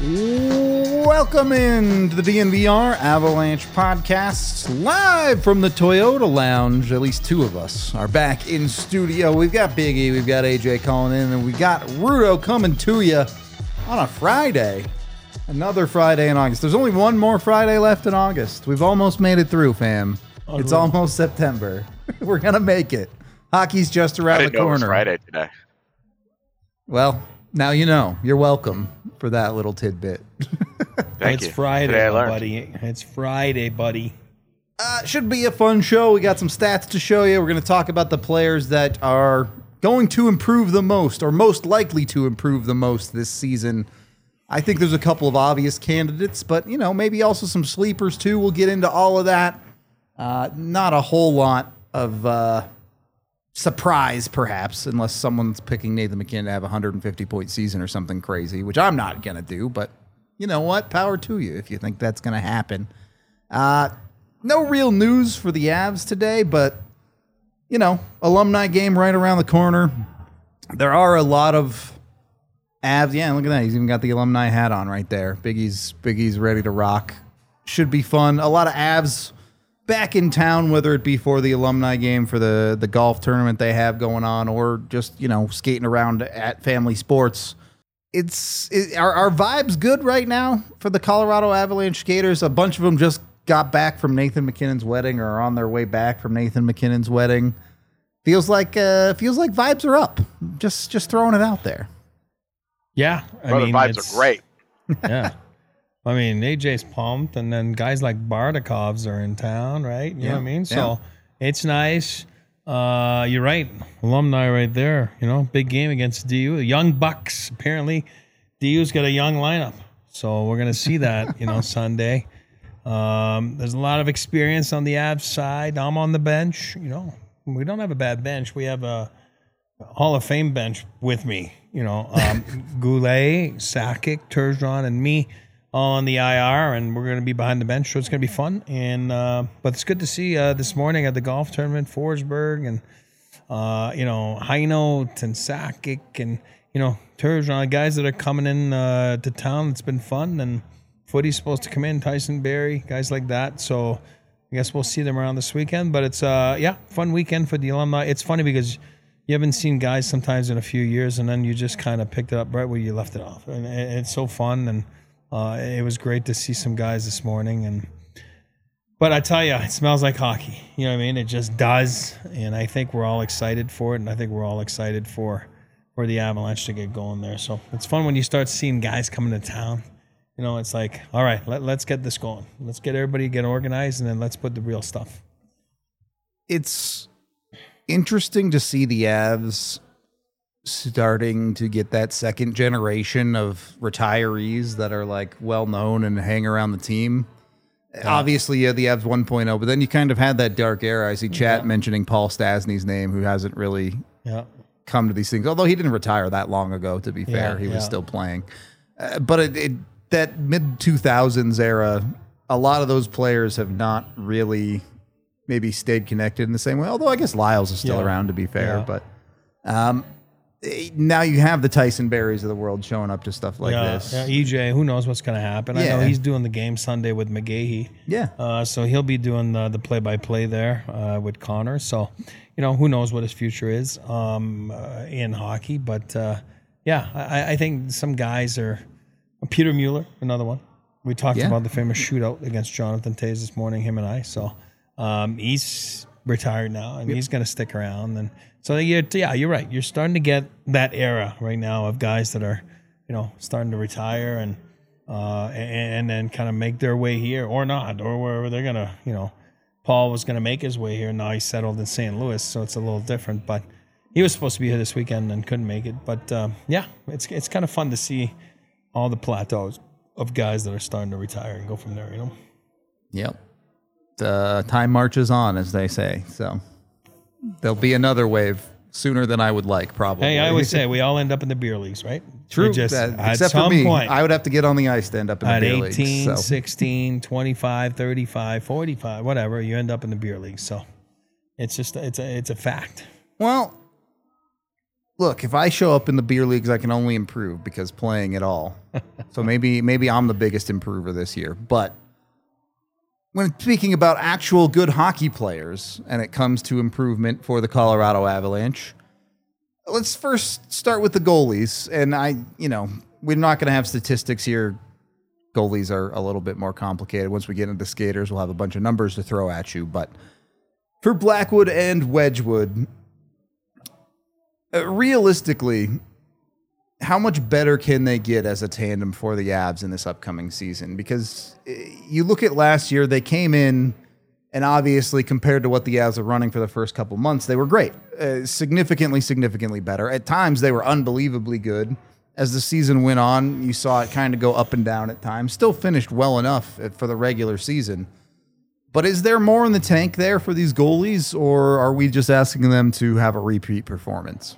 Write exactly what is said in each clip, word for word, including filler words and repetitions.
Welcome in to the D N V R Avalanche Podcast, live from the Toyota Lounge. At least two of us are back in studio. We've got Biggie, we've got A J calling in, and we got Rudo coming to you on a Friday. Another Friday in August. There's only one more Friday left in August. We've almost made it through, fam. Oh, it's really? Almost September. We're going to make it. Hockey's just around I didn't the corner. Know it was Friday today. Well, now you know. You're welcome for that little tidbit. Thank it's you. Friday, buddy. It's Friday, buddy. Uh, should be a fun show. We got some stats to show you. We're going to talk about the players that are going to improve the most, or most likely to improve the most this season. I think there's a couple of obvious candidates, but, you know, maybe also some sleepers, too. We'll get into all of that. Uh, not a whole lot of uh, surprise, perhaps, unless someone's picking Nathan MacKinnon to have a one hundred fifty point season or something crazy, which I'm not going to do, but you know what? Power to you if you think that's going to happen. Uh, no real news for the Avs today, but, you know, alumni game right around the corner. There are a lot of Avs. Yeah, look at that. He's even got the alumni hat on right there. Biggie's, Biggie's ready to rock. Should be fun. A lot of Avs back in town, whether it be for the alumni game, for the, the golf tournament they have going on, or just, you know, skating around at Family Sports. It's it, are our vibes good right now for the Colorado Avalanche skaters? A bunch of them just got back from Nathan MacKinnon's wedding, or are on their way back from Nathan MacKinnon's wedding. Feels like uh, feels like vibes are up. Just just throwing it out there. Yeah, I Bro, mean, the vibes are great. Yeah, I mean, A J's pumped, and then guys like Bardakovs are in town, right? You yeah. know what I mean? So yeah. it's nice. Uh, you're right. Alumni right there. You know, big game against D U. Young Bucks. Apparently, D U's got a young lineup. So we're going to see that, you know, Sunday. Um, there's a lot of experience on the Avs side. I'm on the bench. You know, we don't have a bad bench. We have a Hall of Fame bench with me. You know, um, Goulet, Sakic, Turgeon, and me all on the I R, and we're going to be behind the bench, so it's going to be fun. And uh, but it's good to see uh, this morning at the golf tournament, Forsberg and uh, you know Heinold and Sakic and you know Turgeon, guys that are coming in uh, to town. It's been fun, and footy's supposed to come in. Tyson Barrie, guys like that. So I guess we'll see them around this weekend. But it's uh yeah, fun weekend for the alumni. It's funny because you haven't seen guys sometimes in a few years, and then you just kind of picked it up right where you left it off, and it's so fun. And Uh, it was great to see some guys this morning, and but I tell you, it smells like hockey. You know what I mean? It just does, and I think we're all excited for it, and I think we're all excited for for the Avalanche to get going there. So it's fun when you start seeing guys coming to town. You know, it's like, all right, let, let's get this going. Let's get everybody get organized, and then let's put the real stuff. It's interesting to see the Avs starting to get that second generation of retirees that are like well known and hang around the team. Yeah. Obviously, yeah, the Avs one point oh, but then you kind of had that dark era. I see chat yeah. mentioning Paul Stastny's name, who hasn't really yeah. come to these things. Although he didn't retire that long ago, to be fair, yeah, he was yeah. still playing. Uh, but it, it, that mid two thousands era, a lot of those players have not really maybe stayed connected in the same way. Although I guess Lyles is still yeah. around, to be fair. Yeah. But um, now you have the Tyson Barries of the world showing up to stuff like yeah, this. Yeah, E J, who knows what's going to happen? Yeah. I know he's doing the game Sunday with McGahey. Yeah. Uh, so he'll be doing the, the play-by-play there uh, with Connor. So, you know, who knows what his future is um, uh, in hockey. But, uh, yeah, I, I think some guys are... Peter Mueller, another one. We talked yeah. about the famous shootout against Jonathan Toews this morning, him and I. So um, he's retired now, and yep. he's going to stick around. And so, you're, yeah, you're right. You're starting to get that era right now of guys that are, you know, starting to retire and uh, and then kind of make their way here or not, or wherever they're going to, you know, Paul was going to make his way here. Now he's settled in Saint Louis, so it's a little different. But he was supposed to be here this weekend and couldn't make it. But, um, yeah, it's it's kind of fun to see all the plateaus of guys that are starting to retire and go from there, you know? Yep. The time marches on, as they say. So there'll be another wave sooner than I would like, probably. Hey, I always say we all end up in the beer leagues, right? True. Just, uh, at except some for me, point, I would have to get on the ice to end up in the at beer leagues. eighteen, so. sixteen, twenty-five, thirty-five, forty-five, whatever, you end up in the beer leagues. So it's just, it's a, it's a fact. Well, look, if I show up in the beer leagues, I can only improve because playing at all. So maybe maybe I'm the biggest improver this year. But when speaking about actual good hockey players and it comes to improvement for the Colorado Avalanche, let's first start with the goalies. And I, you know, we're not going to have statistics here. Goalies are a little bit more complicated. Once we get into skaters, we'll have a bunch of numbers to throw at you. But for Blackwood and Wedgwood, uh, realistically, how much better can they get as a tandem for the Avs in this upcoming season? Because uh, you look at last year, they came in, and obviously compared to what the Avs are running for the first couple months, they were great. Uh, significantly, significantly better. At times, they were unbelievably good. As the season went on, you saw it kind of go up and down at times. Still finished well enough for the regular season. But is there more in the tank there for these goalies, or are we just asking them to have a repeat performance?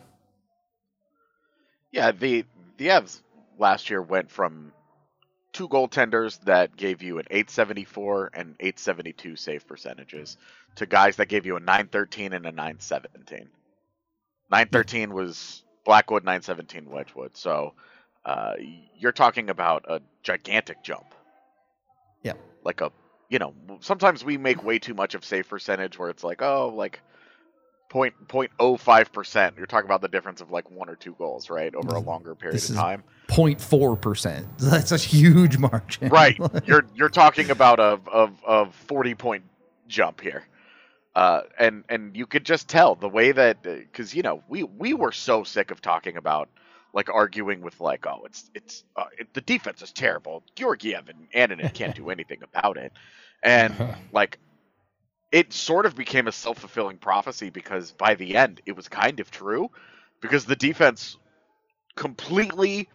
Yeah, the the Avs last year went from two goaltenders that gave you an eight seventy-four and eight seventy-two save percentages to guys that gave you a nine thirteen and a nine seventeen. nine thirteen was Blackwood, nine seventeen Wedgwood. So uh, you're talking about a gigantic jump. Yeah. Like a, you know, sometimes we make way too much of save percentage where it's like, oh, like point point oh five percent. You're talking about the difference of like one or two goals, right, over a longer period this of time. zero point four percent. That's a huge margin. Right. You're you're talking about a of of forty point jump here. Uh, and and you could just tell the way that, because you know we we were so sick of talking about, like, arguing with like, oh, it's it's uh, it, the defense is terrible. Georgiev and Annunen can't do anything about it, and like it sort of became a self-fulfilling prophecy because by the end it was kind of true, because the defense completely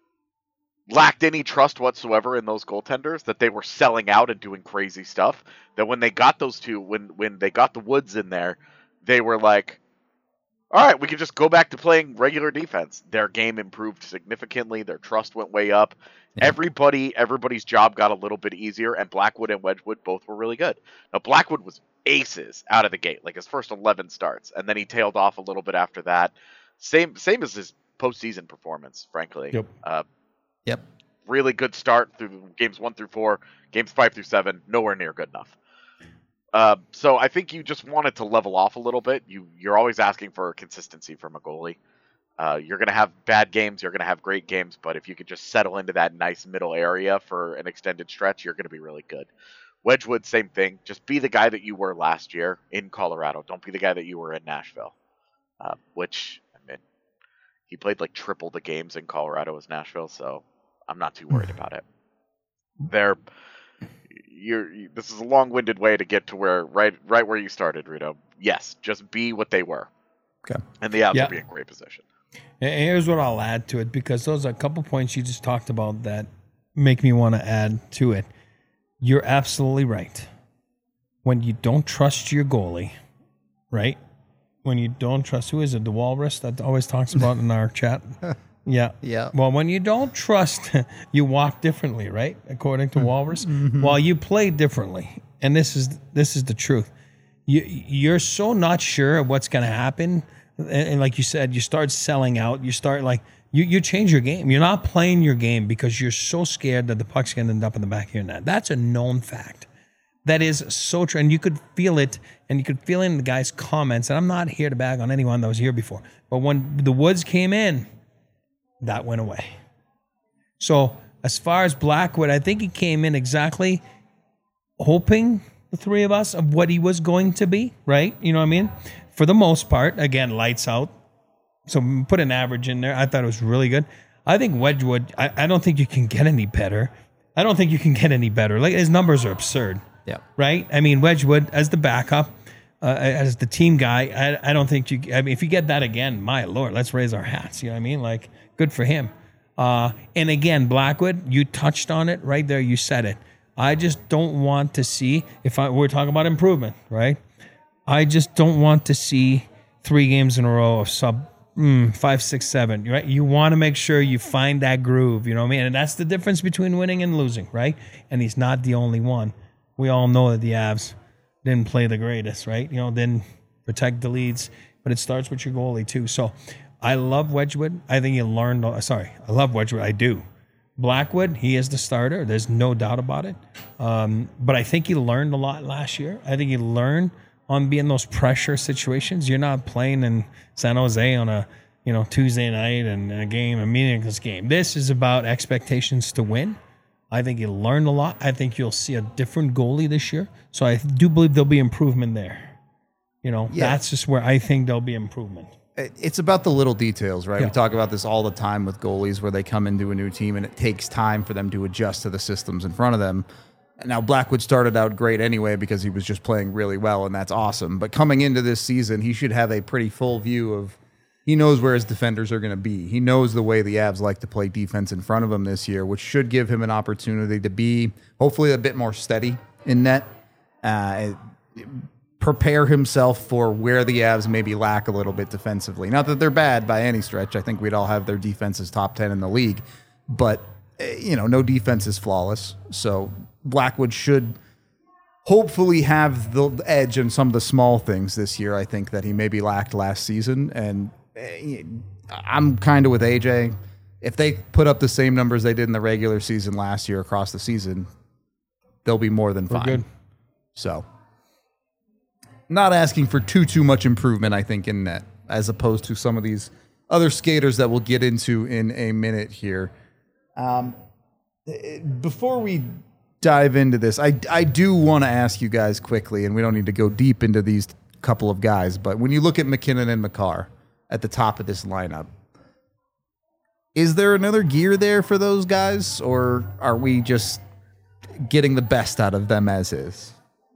lacked any trust whatsoever in those goaltenders, that they were selling out and doing crazy stuff, that when they got those two, when when they got the Woods in there, they were like, all right, we can just go back to playing regular defense. Their game improved significantly. Their trust went way up. Yeah. Everybody, everybody's job got a little bit easier, and Blackwood and Wedgwood both were really good. Now, Blackwood was aces out of the gate, like his first eleven starts, and then he tailed off a little bit after that. Same same as his postseason performance, frankly. Yep. Uh, Yep. Really good start through games one through four, games five through seven, nowhere near good enough. Uh, so I think you just want it to level off a little bit. You, you're always asking for consistency from a goalie. Uh, you're going to have bad games, you're going to have great games, but if you could just settle into that nice middle area for an extended stretch, you're going to be really good. Wedgwood, same thing. Just be the guy that you were last year in Colorado. Don't be the guy that you were in Nashville, uh, which, I mean, he played like triple the games in Colorado as Nashville, so I'm not too worried about it. They're, you're, this is a long-winded way to get to where right right where you started, Rito. Yes, just be what they were. Okay. And the Avs Yeah. will be in great position. And here's what I'll add to it, because those are a couple points you just talked about that make me want to add to it. You're absolutely right. When you don't trust your goalie, right? When you don't trust, who is it? The Walrus that always talks about in our chat? Yeah. Yeah. Well, when you don't trust, you walk differently, right? According to Walrus. Mm-hmm. Well, you play differently. And this is this is the truth. You you're so not sure of what's going to happen, and, and like you said, you start selling out. You start like you you change your game. You're not playing your game because you're so scared that the puck's going to end up in the back of your net. That's a known fact. That is so true, and you could feel it, and you could feel it in the guys' comments. And I'm not here to bag on anyone that was here before, but when the Woods came in, that went away. So as far as Blackwood, I think he came in exactly hoping, the three of us, of what he was going to be, right? You know what I mean? For the most part, again, lights out. So put an average in there. I thought it was really good. I think Wedgwood, I, I don't think you can get any better. I don't think you can get any better. Like, his numbers are absurd. Yeah. Right? I mean, Wedgwood as the backup, uh, as the team guy, I, I don't think you, I mean, if you get that again, my Lord, let's raise our hats. You know what I mean? Like, good for him. Uh, and again, Blackwood, you touched on it right there. You said it. I just don't want to see, if I, we're talking about improvement, right? I just don't want to see three games in a row of sub mm, five, six, seven, right? You want to make sure you find that groove, you know what I mean? And that's the difference between winning and losing, right? And he's not the only one. We all know that the Avs didn't play the greatest, right? You know, didn't protect the leads, but it starts with your goalie too. So I love Wedgwood. I think he learned. Sorry, I love Wedgwood. I do. Blackwood, he is the starter. There's no doubt about it. Um, but I think he learned a lot last year. I think he learned on being those pressure situations. You're not playing in San Jose on a you know Tuesday night and a game, a meaningless game. This is about expectations to win. I think he learned a lot. I think you'll see a different goalie this year. So I do believe there'll be improvement there. You know, yeah. That's just where I think there'll be improvement. It's about the little details, right? Yeah. We talk about this all the time with goalies where they come into a new team and it takes time for them to adjust to the systems in front of them. Now, Blackwood started out great anyway because he was just playing really well, and that's awesome. But coming into this season, he should have a pretty full view of he knows where his defenders are going to be. He knows the way the Avs like to play defense in front of him this year, which should give him an opportunity to be hopefully a bit more steady in net. Uh, prepare himself for where the Avs maybe lack a little bit defensively. Not that they're bad by any stretch. I think we'd all have their defenses top ten in the league. But, you know, no defense is flawless. So Blackwood should hopefully have the edge in some of the small things this year, I think, that he maybe lacked last season. And I'm kind of with A J. If they put up the same numbers they did in the regular season last year across the season, they'll be more than fine. We're good. So... not asking for too, too much improvement, I think, in net, as opposed to some of these other skaters that we'll get into in a minute here. Um, before we dive into this, I, I do want to ask you guys quickly, and we don't need to go deep into these couple of guys, but when you look at MacKinnon and Makar at the top of this lineup, is there another gear there for those guys, or are we just getting the best out of them as is?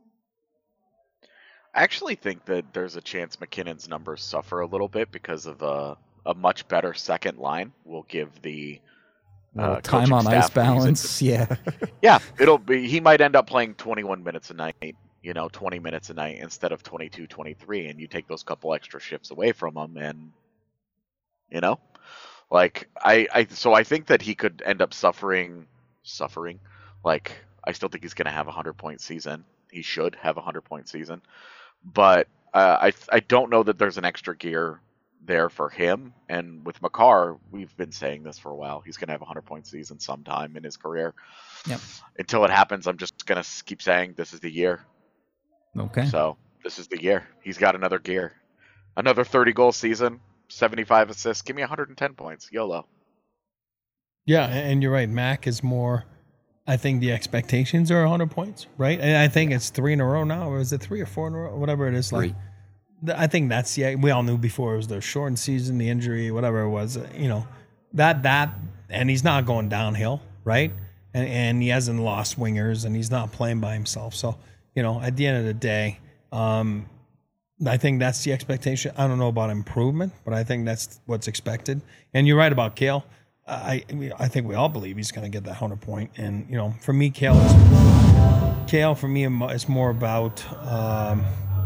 I actually think that there's a chance McKinnon's numbers suffer a little bit because of a, a much better second line will give the uh, time on ice balance. Yeah. yeah, it'll be, he might end up playing twenty-one minutes a night, you know, twenty minutes a night instead of twenty-two, twenty-three, and you take those couple extra shifts away from him, and, you know, like, I, I so I think that he could end up suffering, suffering, like, I still think he's going to have a hundred-point season. He should have a hundred-point season. But uh, I I don't know that there's an extra gear there for him. And with Makar, we've been saying this for a while. He's going to have a hundred-point season sometime in his career. Yep. Until it happens, I'm just going to keep saying this is the year. Okay. So this is the year. He's got another gear. Another thirty-goal season, seventy-five assists. Give me one hundred ten points. YOLO. Yeah, and you're right. Mac is more... I think the expectations are one hundred points, right? And I think it's three in a row now, or is it three or four in a row? Whatever it is. Like, I think that's, yeah, we all knew before it was the shortened season, the injury, whatever it was, you know, that, that, and he's not going downhill, right? And, and he hasn't lost wingers, and he's not playing by himself. So, you know, at the end of the day, um, I think that's the expectation. I don't know about improvement, but I think that's what's expected. And you're right about Cale. I I think we all believe he's going to get that hundred point, and you know, for me, Cale, is, Cale for me is more about um,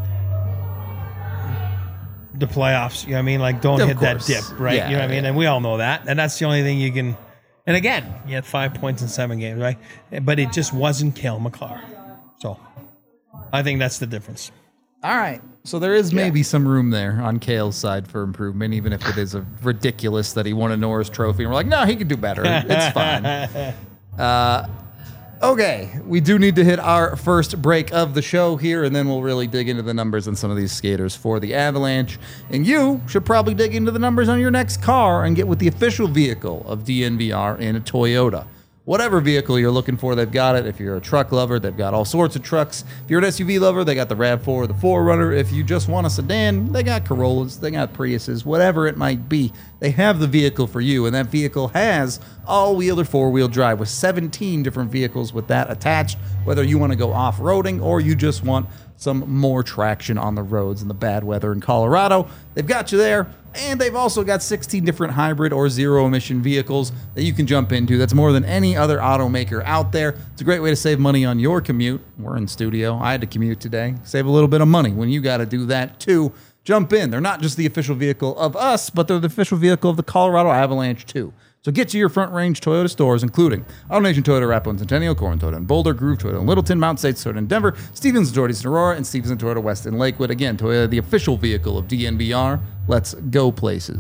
the playoffs. You know what I mean? Like, don't of hit course. that dip, right? Yeah, you know what I mean? yeah. And we all know that, and that's the only thing you can. And again, he had five points in seven games, right? But it just wasn't Cale Makar. So I think that's the difference. All right. So there is maybe yeah. some room there on Cale's side for improvement, even if it is a ridiculous that he won a Norris Trophy. And we're like, no, he can do better. It's fine. Uh, okay. We do need to hit our first break of the show here, and then we'll really dig into the numbers on some of these skaters for the Avalanche. And you should probably dig into the numbers on your next car and get with the official vehicle of D N V R in a Toyota. Whatever vehicle you're looking for, they've got it. If you're a truck lover, they've got all sorts of trucks. If you're an S U V lover, they got the RAV four or the four runner. If you just want a sedan, they got Corollas, they got Priuses, whatever it might be. They have the vehicle for you, and that vehicle has all-wheel or four-wheel drive with seventeen different vehicles with that attached, whether you want to go off-roading or you just want some more traction on the roads in the bad weather in Colorado. They've got you there. And they've also got sixteen different hybrid or zero-emission vehicles that you can jump into. That's more than any other automaker out there. It's a great way to save money on your commute. We're in studio. I had to commute today. Save a little bit of money when you got to do that, too. Jump in. They're not just the official vehicle of us, but they're the official vehicle of the Colorado Avalanche, too. So get to your front-range Toyota stores, including AutoNation Toyota, Arapahoe and Centennial, Corin Toyota in Boulder, Groove Toyota in Littleton, Mount States Toyota in Denver, Stevens Toyota East Aurora, and Stevens Toyota West in Lakewood. Again, Toyota, the official vehicle of D N V R. Let's go places.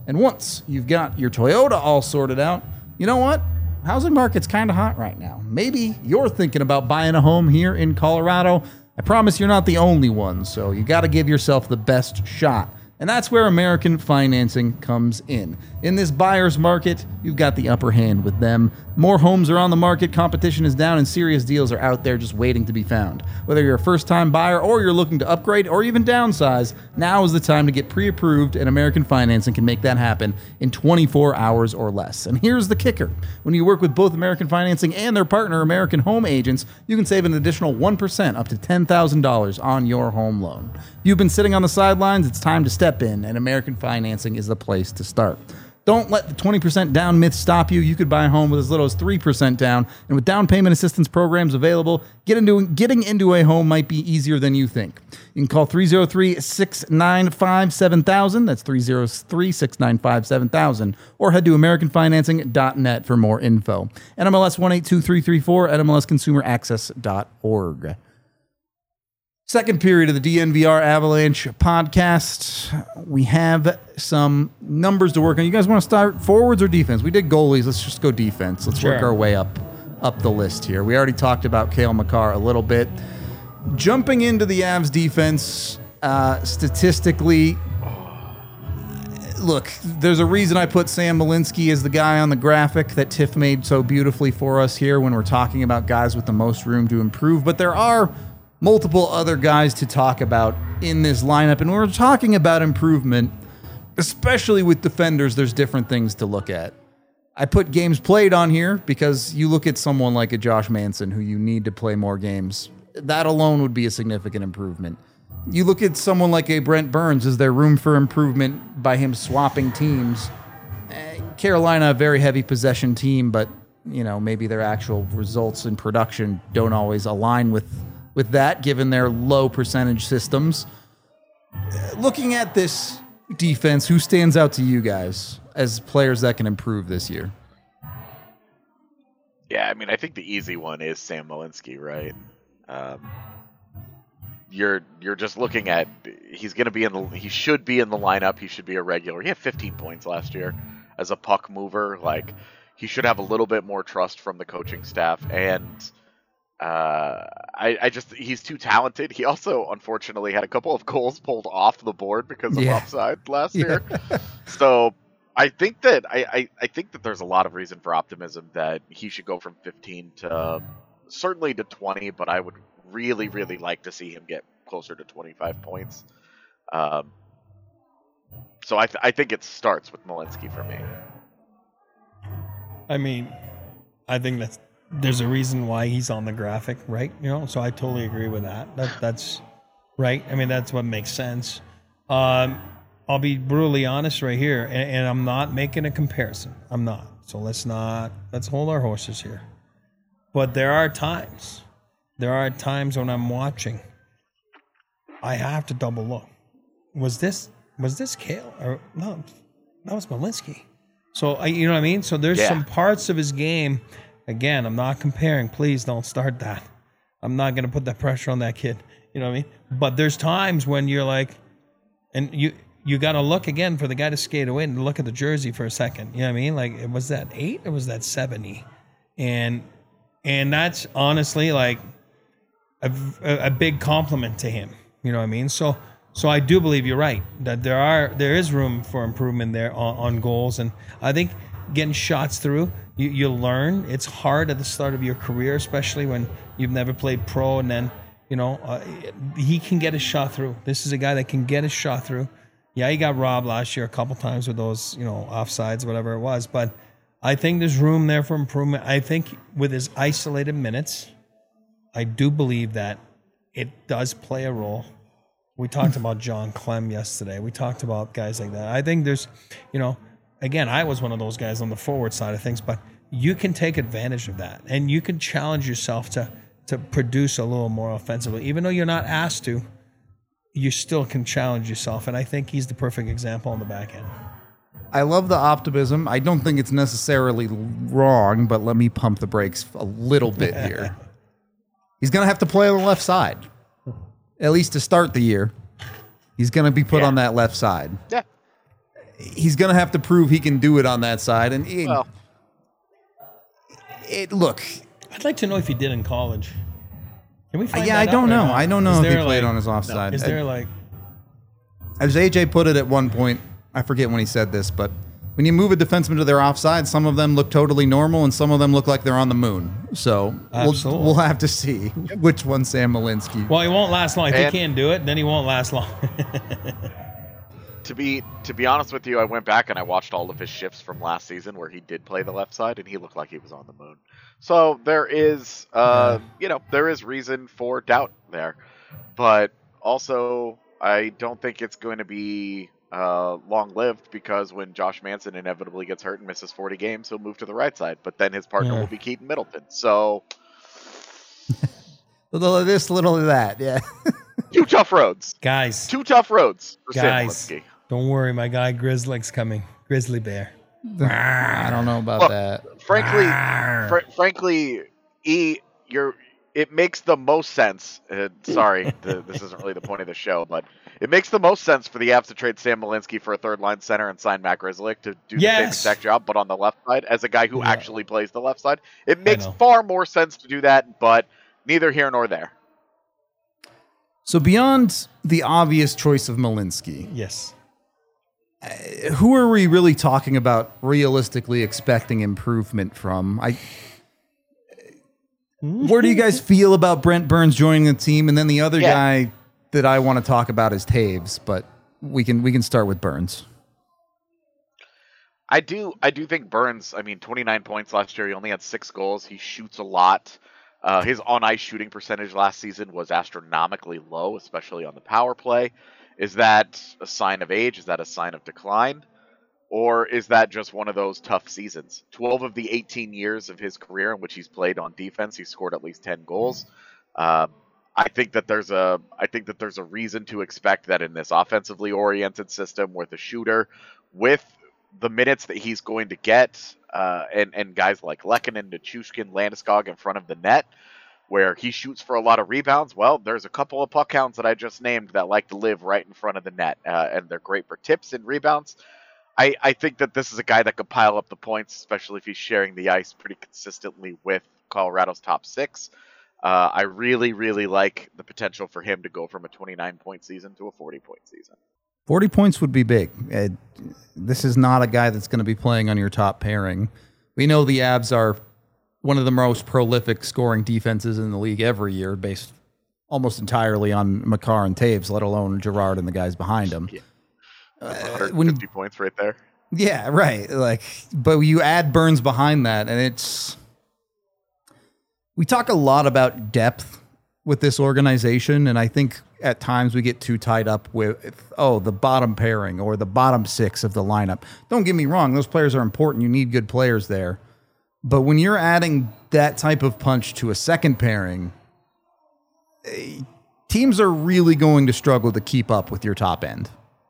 And once you've got your Toyota all sorted out, you know what? Housing market's kind of hot right now. Maybe you're thinking about buying a home here in Colorado. I promise you're not the only one, so you got to give yourself the best shot. And that's where American Financing comes in. In this buyer's market, you've got the upper hand with them. More homes are on the market, competition is down, and serious deals are out there just waiting to be found. Whether you're a first-time buyer or you're looking to upgrade or even downsize, now is the time to get pre-approved, and American Financing can make that happen in twenty-four hours or less. And here's the kicker. When you work with both American Financing and their partner, American Home Agents, you can save an additional one percent up to ten thousand dollars on your home loan. If you've been sitting on the sidelines, it's time to step in, and American Financing is the place to start. Don't let the twenty percent down myth stop you. You could buy a home with as little as three percent down, and with down payment assistance programs available, get into, getting into a home might be easier than you think. You can call three oh three, six nine five, seven thousand, that's three oh three, six nine five, seven thousand, or head to american financing dot net for more info. N M L S one eight two three three four, N M L S consumer access dot org. Second period of the D N V R Avalanche podcast. We have some numbers to work on. You guys want to start forwards or defense? We did goalies. Let's just go defense. Let's Sure. work our way up up the list here. We already talked about Cale Makar a little bit. Jumping into the Avs defense, uh, statistically, look, there's a reason I put Sam Malinsky as the guy on the graphic that Tiff made so beautifully for us here when we're talking about guys with the most room to improve. But there are multiple other guys to talk about in this lineup. And when we're talking about improvement, especially with defenders, there's different things to look at. I put games played on here because you look at someone like a Josh Manson who you need to play more games. That alone would be a significant improvement. You look at someone like a Brent Burns. Is there room for improvement by him swapping teams? Eh, Carolina, a very heavy possession team, but you know maybe their actual results in production don't always align with with that, given their low percentage systems. Looking at this defense, who stands out to you guys as players that can improve this year? Yeah, I mean, I think the easy one is Sam Malinsky, right? Um, you're you're just looking at he's going to be in the he should be in the lineup. He should be a regular. He had fifteen points last year as a puck mover. Like he should have a little bit more trust from the coaching staff and. Uh, I, I just he's too talented. He also unfortunately had a couple of goals pulled off the board because of yeah. offside last yeah. year. So I think that I, I, I think that there's a lot of reason for optimism that he should go from fifteen to certainly to twenty, but I would really really like to see him get closer to twenty-five points. Um, so I th- I think it starts with Malinsky for me. I mean, I think that's there's a reason why he's on the graphic, right? You know, so I totally agree with that. That that's right. I mean, that's what makes sense. Um, I'll be brutally honest right here, and, and I'm not making a comparison. I'm not. So let's not let's hold our horses here. But there are times, there are times when I'm watching, I have to double look. Was this was this Cale or no? That was Malinsky. So I, you know what I mean. So there's Yeah. some parts of his game. Again, I'm not comparing. Please don't start that. I'm not going to put that pressure on that kid. You know what I mean? But there's times when you're like, and you you got to look again for the guy to skate away and look at the jersey for a second. You know what I mean? Like, was that eight or was that seventy? And and that's honestly like a, a, a big compliment to him. You know what I mean? So so I do believe you're right that there are there is room for improvement there on, on goals, and I think getting shots through. You, you learn. It's hard at the start of your career, especially when you've never played pro. And then, you know, uh, he can get a shot through. This is a guy that can get a shot through. Yeah, he got robbed last year a couple times with those, you know, offsides, whatever it was. But I think there's room there for improvement. I think with his isolated minutes, I do believe that it does play a role. We talked about John Clem yesterday. We talked about guys like that. I think there's, you know, again, I was one of those guys on the forward side of things, but you can take advantage of that, and you can challenge yourself to to produce a little more offensively. Even though you're not asked to, you still can challenge yourself, and I think he's the perfect example on the back end. I love the optimism. I don't think it's necessarily wrong, but let me pump the brakes a little bit here. He's going to have to play on the left side, at least to start the year. He's going to be put Yeah. on that left side. Yeah. he's going to have to prove he can do it on that side. And it, Well, it look, I'd like to know if he did in college. Can we find yeah, that I don't out or know. not? I don't know Is if he there, played like- on his offside. Is there like As A J put it at one point, I forget when he said this, but when you move a defenseman to their offside, some of them look totally normal and some of them look like they're on the moon. So we'll, Absolutely. we'll have to see which one Sam Malinsky. Well, he won't last long. If And- he can't do it, then he won't last long. to be to be honest with you, I went back and I watched all of his shifts from last season where he did play the left side, and he looked like he was on the moon. So there is, uh, you know, there is reason for doubt there, but also I don't think it's going to be uh, long-lived, because when Josh Manson inevitably gets hurt and misses forty games, he'll move to the right side, but then his partner Yeah. will be Keaton Middleton. So Little of this, little of that. Yeah. two tough roads, Guys, two tough roads for Sam guys, Malinsky. don't worry. My guy Grizzly's coming. Grizzly Bear. I don't know about Well, that. Frankly, Arr. fr- frankly, E, you're. It makes the most sense. Uh, sorry, the, this isn't really the point of the show, but it makes the most sense for the Avs to trade Sam Malinsky for a third line center and sign Matt Grzelcyk to do the same Yes. exact job, but on the left side as a guy who Yeah. actually plays the left side. It makes know. far more sense to do that, but neither here nor there. So beyond the obvious choice of Malinsky, Yes. who are we really talking about realistically expecting improvement from? I Where do you guys feel about Brent Burns joining the team? And then the other Yeah. guy that I want to talk about is Taves, but we can we can start with Burns. I do I do think Burns, I mean, twenty-nine points last year. He only had six goals. He shoots a lot. Uh, his on-ice shooting percentage last season was astronomically low, especially on the power play. Is that a sign of age? Is that a sign of decline? Or is that just one of those tough seasons? twelve of the eighteen years of his career in which he's played on defense, he's scored at least ten goals. Uh, I think that there's a I think that there's a reason to expect that in this offensively oriented system with a shooter, with the minutes that he's going to get, uh, and and guys like Lehkonen, Nichushkin, Landeskog in front of the net, where he shoots for a lot of rebounds. Well, there's a couple of puck hounds that I just named that like to live right in front of the net, uh, and they're great for tips and rebounds. I, I think that this is a guy that could pile up the points, especially if he's sharing the ice pretty consistently with Colorado's top six. Uh, I really, really like the potential for him to go from a twenty-nine point season to a forty point season. forty points would be big. Uh, this is not a guy that's going to be playing on your top pairing. We know the Avs are one of the most prolific scoring defenses in the league every year, based almost entirely on Makar and Taves, let alone Girard and the guys behind him. Yeah. That's Uh, one hundred fifty when- points right there. Yeah, right. Like, but you add Burns behind that, and it's. We talk a lot about depth with this organization, and I think at times we get too tied up with, oh, the bottom pairing or the bottom six of the lineup. Don't get me wrong; those players are important. You need good players there, but when you're adding that type of punch to a second pairing, eh, teams are really going to struggle to keep up with your top end.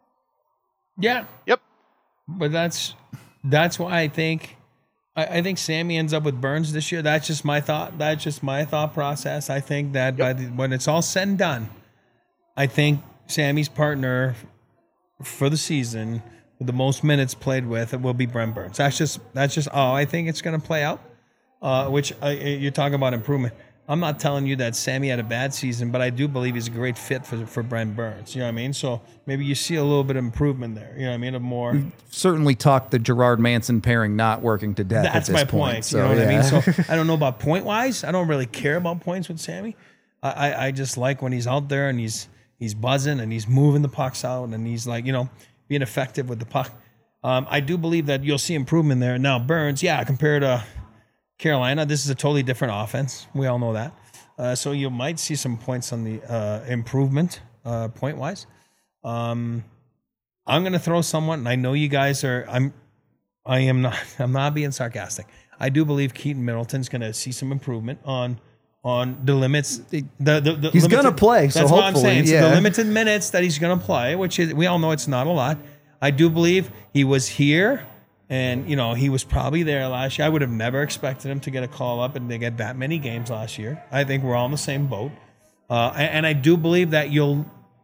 Yeah. Yep. But that's that's why I think I, I think Sammy ends up with Burns this year. That's just my thought. That's just my thought process. I think that by the, when it's all said and done, I think Sammy's partner for the season with the most minutes played with it will be Brent Burns. That's just that's just how I think it's going to play out. Uh, which uh, you're talking about improvement. I'm not telling you that Sammy had a bad season, but I do believe he's a great fit for for Brent Burns. You know what I mean? So maybe you see a little bit of improvement there. You know what I mean? Of more. Certainly talked the Gerard Manson pairing not working to death. That's at this my point. So, you know what yeah. I mean? So I don't know about point wise. I don't really care about points with Sammy. I, I, I just like when he's out there and he's he's buzzing and he's moving the pucks out and he's like, you know, being effective with the puck. Um, I do believe that you'll see improvement there. Now Burns, yeah, compared to Carolina, this is a totally different offense. We all know that. Uh, so you might see some points on the uh, improvement uh, point wise. Um, I'm going to throw someone, and I know you guys are. I'm. I am not. I'm not being sarcastic. I do believe Keaton Middleton's going to see some improvement on on the limits. The, the, the He's limited- gonna play, so that's what I'm hopefully, saying. So yeah. the limited minutes that he's going to play, which is we all know it's not a lot. I do believe he was here. And, you know, he was probably there last year. I would have never expected him to get a call up and to get that many games last year. I think we're all in the same boat. Uh, and, and I do believe that you'll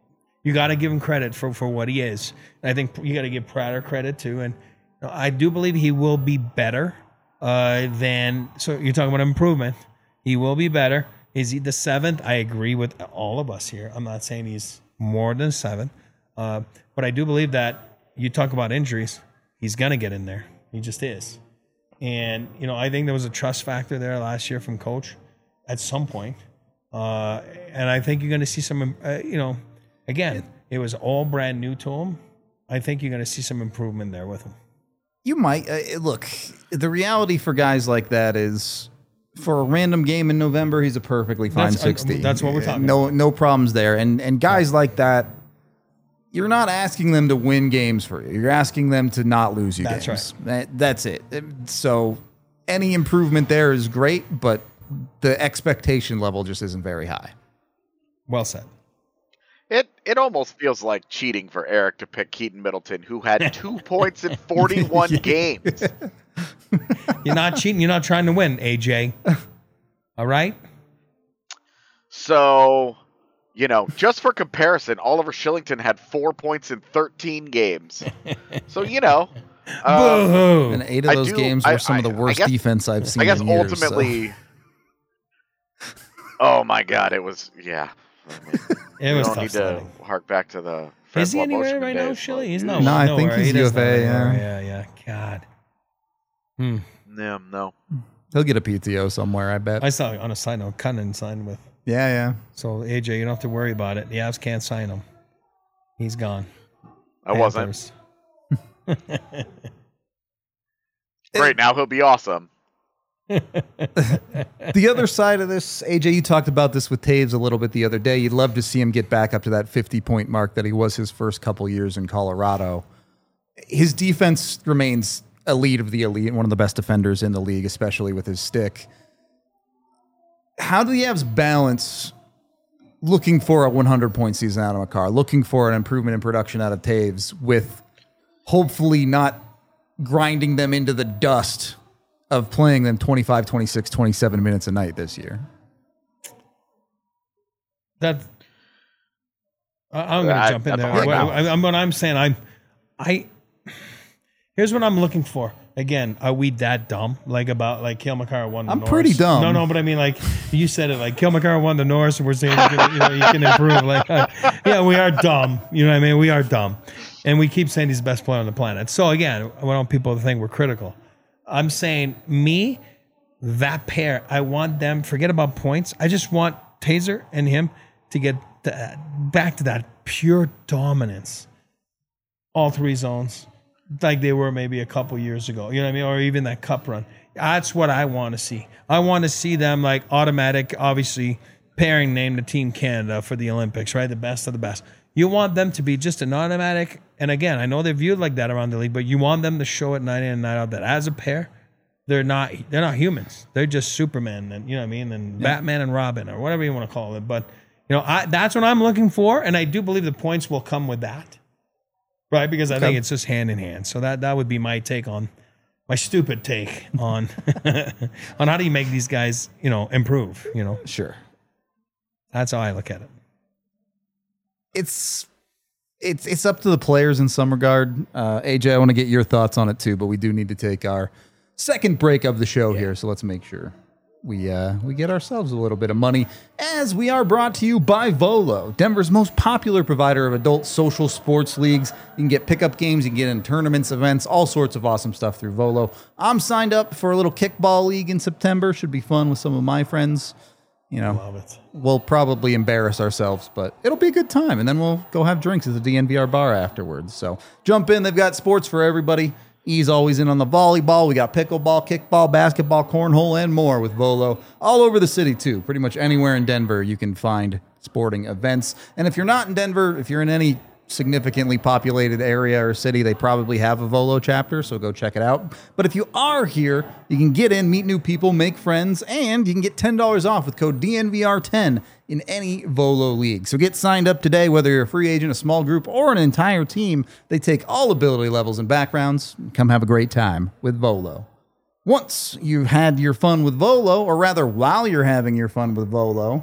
You got to give him credit for, for what he is. And I think you got to give Prater credit too. And you know, I do believe he will be better uh, than. So you're talking about improvement. He will be better. Is he the seventh? I agree with all of us here. I'm not saying he's more than seven, uh, but I do believe that you talk about injuries. He's gonna get in there. He just is. And you know, I think there was a trust factor there last year from coach at some point. Uh, and I think you're going to see some, uh, you know, again, it was all brand new to him. I think you're going to see some improvement there with him. You might. Uh, look, the reality for guys like that is for a random game in November, he's a perfectly fine That's, uh, sixty. that's what we're talking no, about. No problems there. And, and guys like that, you're not asking them to win games for you. You're asking them to not lose you That's games. right. That, that's it. So any improvement there is great, but the expectation level just isn't very high. Well said. It it almost feels like cheating for Eric to pick Keaton Middleton, who had two points in forty-one games. You're not cheating. You're not trying to win, A J. All right? So, you know, just for comparison, Oliver Shillington had four points in thirteen games. So, you know. Um, Boo-hoo. And eight of I those do- games were I- some of the I- I worst guess- defense I've seen I guess in years. so- ultimately. Oh my God! It was yeah. I mean, It we was don't tough need to sledding. hark back to the. Is he Francois anywhere Moshman right now, days, Shilly? but- He's no, No, I think nowhere. he's He does U F A, nowhere. yeah. yeah, yeah. God. Hmm. No, no. He'll get a P T O somewhere, I bet. I saw, on a side note, Cunnan signed with. yeah, yeah. So, A J, you don't have to worry about it. The Avs can't sign him. He's gone. I wasn't. Panthers. Great. Now he'll be awesome. The other side of this, A J, you talked about this with Taves a little bit the other day. You'd love to see him get back up to that fifty-point mark that he was his first couple years in Colorado. His defense remains elite of the elite, one of the best defenders in the league, especially with his stick. How do the Avs balance looking for a hundred-point season out of Makar, looking for an improvement in production out of Taves, with hopefully not grinding them into the dust of playing them twenty-five, twenty-six, twenty-seven minutes a night this year? That I- I'm going to I- jump in that's there. a hard What, balance. I, I'm what I'm saying. I'm I. Here's what I'm looking for. Again, are we that dumb? Like about like Kale McCarr won the I'm Norris? pretty dumb. No, no, but I mean like you said it. Like Kale McCarr won the Norris, and we're saying you can, you know, you can improve. Like uh, yeah, we are dumb. You know what I mean? We are dumb, and we keep saying he's the best player on the planet. So again, I want people to think we're critical. I'm saying me, that pair. I want them. Forget about points. I just want Taser and him to get the, back to that pure dominance. All three zones, like they were maybe a couple years ago. You know what I mean? Or even that cup run. That's what I want to see. I want to see them like automatic, obviously, pairing name the Team Canada for the Olympics, right? The best of the best. You want them to be just an automatic. And again, I know they're viewed like that around the league, but you want them to show it night in and night out that as a pair, they're not they're not humans. They're just Superman and you know what I mean, and yeah. Batman and Robin or whatever you want to call it. But you know, I, that's what I'm looking for, and I do believe the points will come with that, right? Because I okay. think it's just hand in hand. So that that would be my take on my stupid take on on how do you make these guys you know improve. You know, sure. That's how I look at it. It's. It's it's up to the players in some regard. Uh, A J, I want to get your thoughts on it too, but we do need to take our second break of the show yeah. here, so let's make sure we uh, we get ourselves a little bit of money, as we are brought to you by Volo, Denver's most popular provider of adult social sports leagues. You can get pickup games, you can get in tournaments, events, all sorts of awesome stuff through Volo. I'm signed up for a little kickball league in September. Should be fun with some of my friends. You know, Love it. We'll probably embarrass ourselves, but it'll be a good time. And then we'll go have drinks at the D N V R bar afterwards. So jump in. They've got sports for everybody. E's always in on the volleyball. We got pickleball, kickball, basketball, cornhole, and more with Volo. All over the city, too. Pretty much anywhere in Denver, you can find sporting events. And if you're not in Denver, if you're in any significantly populated area or city, they probably have a Volo chapter, so go check it out. But if you are here, you can get in, meet new people, make friends, and you can get ten dollars off with code D N V R ten in any Volo league. So get signed up today, whether you're a free agent, a small group, or an entire team. They take all ability levels and backgrounds. Come have a great time with Volo. Once you've had your fun with Volo, or rather while you're having your fun with Volo,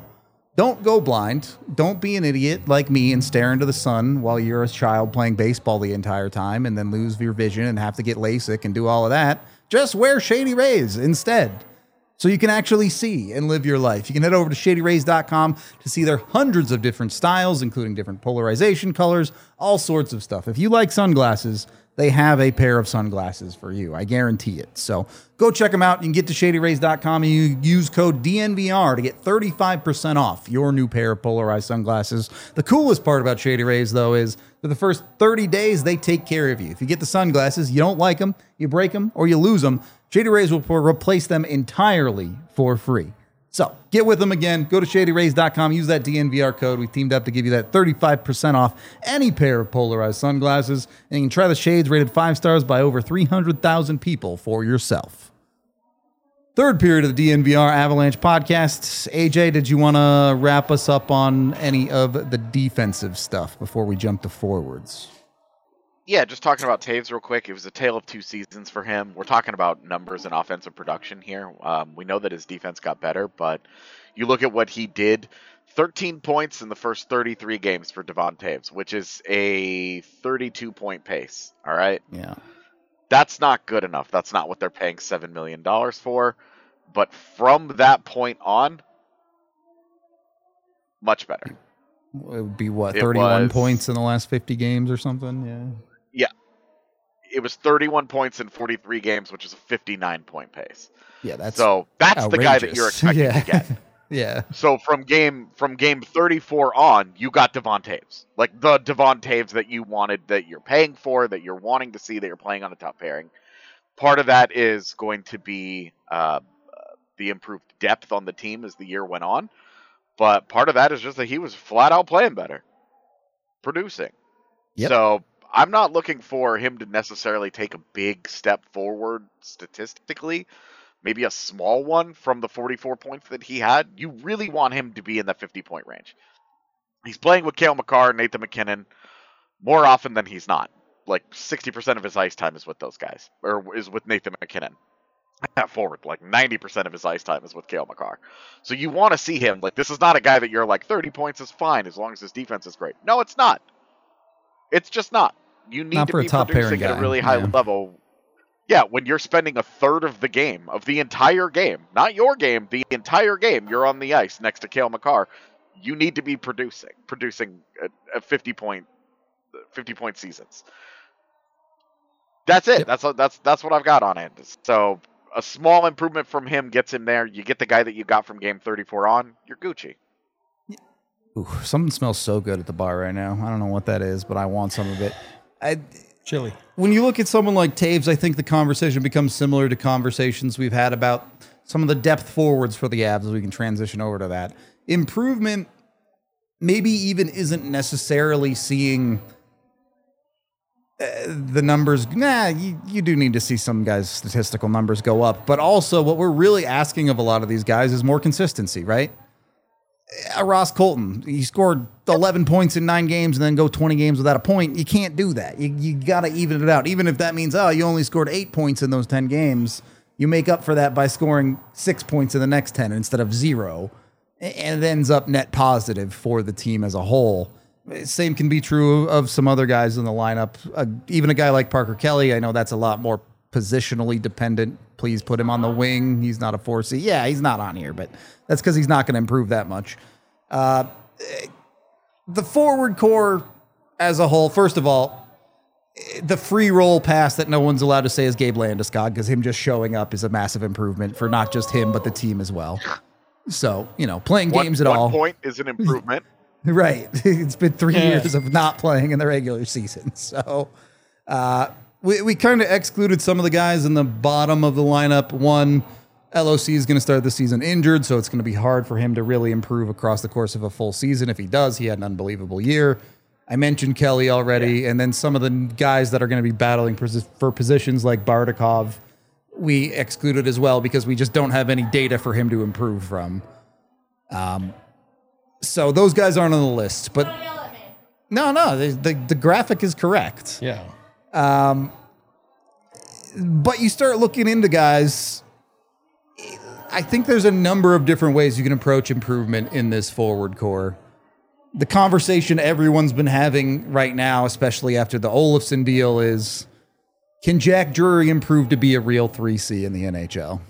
don't go blind. Don't be an idiot like me and stare into the sun while you're a child playing baseball the entire time and then lose your vision and have to get LASIK and do all of that. Just wear Shady Rays instead, so you can actually see and live your life. You can head over to shady rays dot com to see their hundreds of different styles, including different polarization colors, all sorts of stuff. If you like sunglasses, they have a pair of sunglasses for you. I guarantee it. So go check them out. You can get to shady rays dot com and you use code D N V R to get thirty-five percent off your new pair of polarized sunglasses. The coolest part about Shady Rays, though, is for the first thirty days, they take care of you. If you get the sunglasses, you don't like them, you break them, or you lose them, Shady Rays will replace them entirely for free. So get with them again. Go to shady rays dot com. Use that D N V R code. We teamed up to give you that thirty-five percent off any pair of polarized sunglasses. And you can try the shades rated five stars by over three hundred thousand people for yourself. Third period of the D N V R Avalanche podcast. A J, did you want to wrap us up on any of the defensive stuff before we jump to forwards? Yeah, just talking about Taves real quick. It was a tale of two seasons for him. We're talking about numbers and offensive production here. Um, we know that his defense got better, but you look at what he did. thirteen points in the first thirty-three games for Devon Taves, which is a thirty-two point pace. All right? Yeah. That's not good enough. That's not what they're paying seven million dollars for. But from that point on, much better. It would be, what, It thirty-one was- points in the last fifty games or something? Yeah. It was thirty-one points in forty-three games, which is a fifty-nine point pace. Yeah, that's So that's the guy that outrageous. you're expecting yeah. to get. yeah. So from game from game thirty-four on, you got Devon Taves. Like the Devon Taves that you wanted, that you're paying for, that you're wanting to see, that you're playing on a top pairing. Part of that is going to be uh, the improved depth on the team as the year went on. But part of that is just that he was flat out playing better. Producing. Yep. So I'm not looking for him to necessarily take a big step forward statistically. Maybe a small one from the forty-four points that he had. You really want him to be in the fifty point range. He's playing with Cale Makar, Nathan MacKinnon more often than he's not. Like sixty percent of his ice time is with those guys, or is with Nathan MacKinnon. At forward, like ninety percent of his ice time is with Cale Makar. So you want to see him. Like, this is not a guy that you're like, thirty points is fine as long as his defense is great. No, it's not. It's just not. You need Not to for a be top pairing producing at guy, a really high yeah. level. Yeah, when you're spending a third of the game, of the entire game, not your game, the entire game, you're on the ice next to Cale Makar, you need to be producing, producing at, at fifty point, fifty point seasons. That's it. Yep. That's that's that's what I've got on it. So a small improvement from him gets him there. You get the guy that you got from game thirty-four on, you're Gucci. Ooh, something smells so good at the bar right now. I don't know what that is, but I want some of it. I, Chili. when you look at someone like Taves, I think the conversation becomes similar to conversations we've had about some of the depth forwards for the Avs, as we can transition over to that. Improvement maybe even isn't necessarily seeing uh, the numbers. Nah, you, you do need to see some guys' statistical numbers go up. But also what we're really asking of a lot of these guys is more consistency, right? Uh, Ross Colton, he scored eleven points in nine games and then go twenty games without a point. You can't do that. You, you got to even it out. Even if that means, oh, you only scored eight points in those ten games, you make up for that by scoring six points in the next ten instead of zero. And it ends up net positive for the team as a whole. Same can be true of some other guys in the lineup. Uh, even a guy like Parker Kelly, I know that's a lot more positionally dependent. Please put him on the wing. He's not a four C. Yeah, he's not on here, but that's because he's not going to improve that much. Uh, the forward core as a whole, first of all, the free roll pass that no one's allowed to say is Gabe Landeskog, because him just showing up is a massive improvement for not just him, but the team as well. So, you know, playing One, games at one all. point is an improvement. Right. It's been three Yeah. years of not playing in the regular season. So uh, we, we kind of excluded some of the guys in the bottom of the lineup. One, L O C is going to start the season injured, so it's going to be hard for him to really improve across the course of a full season. If he does, he had an unbelievable year. I mentioned Kelly already, yeah. And then some of the guys that are going to be battling posi- for positions like Bardakov, we excluded as well because we just don't have any data for him to improve from. Um, so those guys aren't on the list, but Don't yell at me. no, no, the, the, the graphic is correct. Yeah. But you start looking into guys I think there's a number of different ways you can approach improvement in this forward core. The conversation everyone's been having right now, especially after the Olofsson deal, is can Jack Drury improve to be a real three C in the N H L?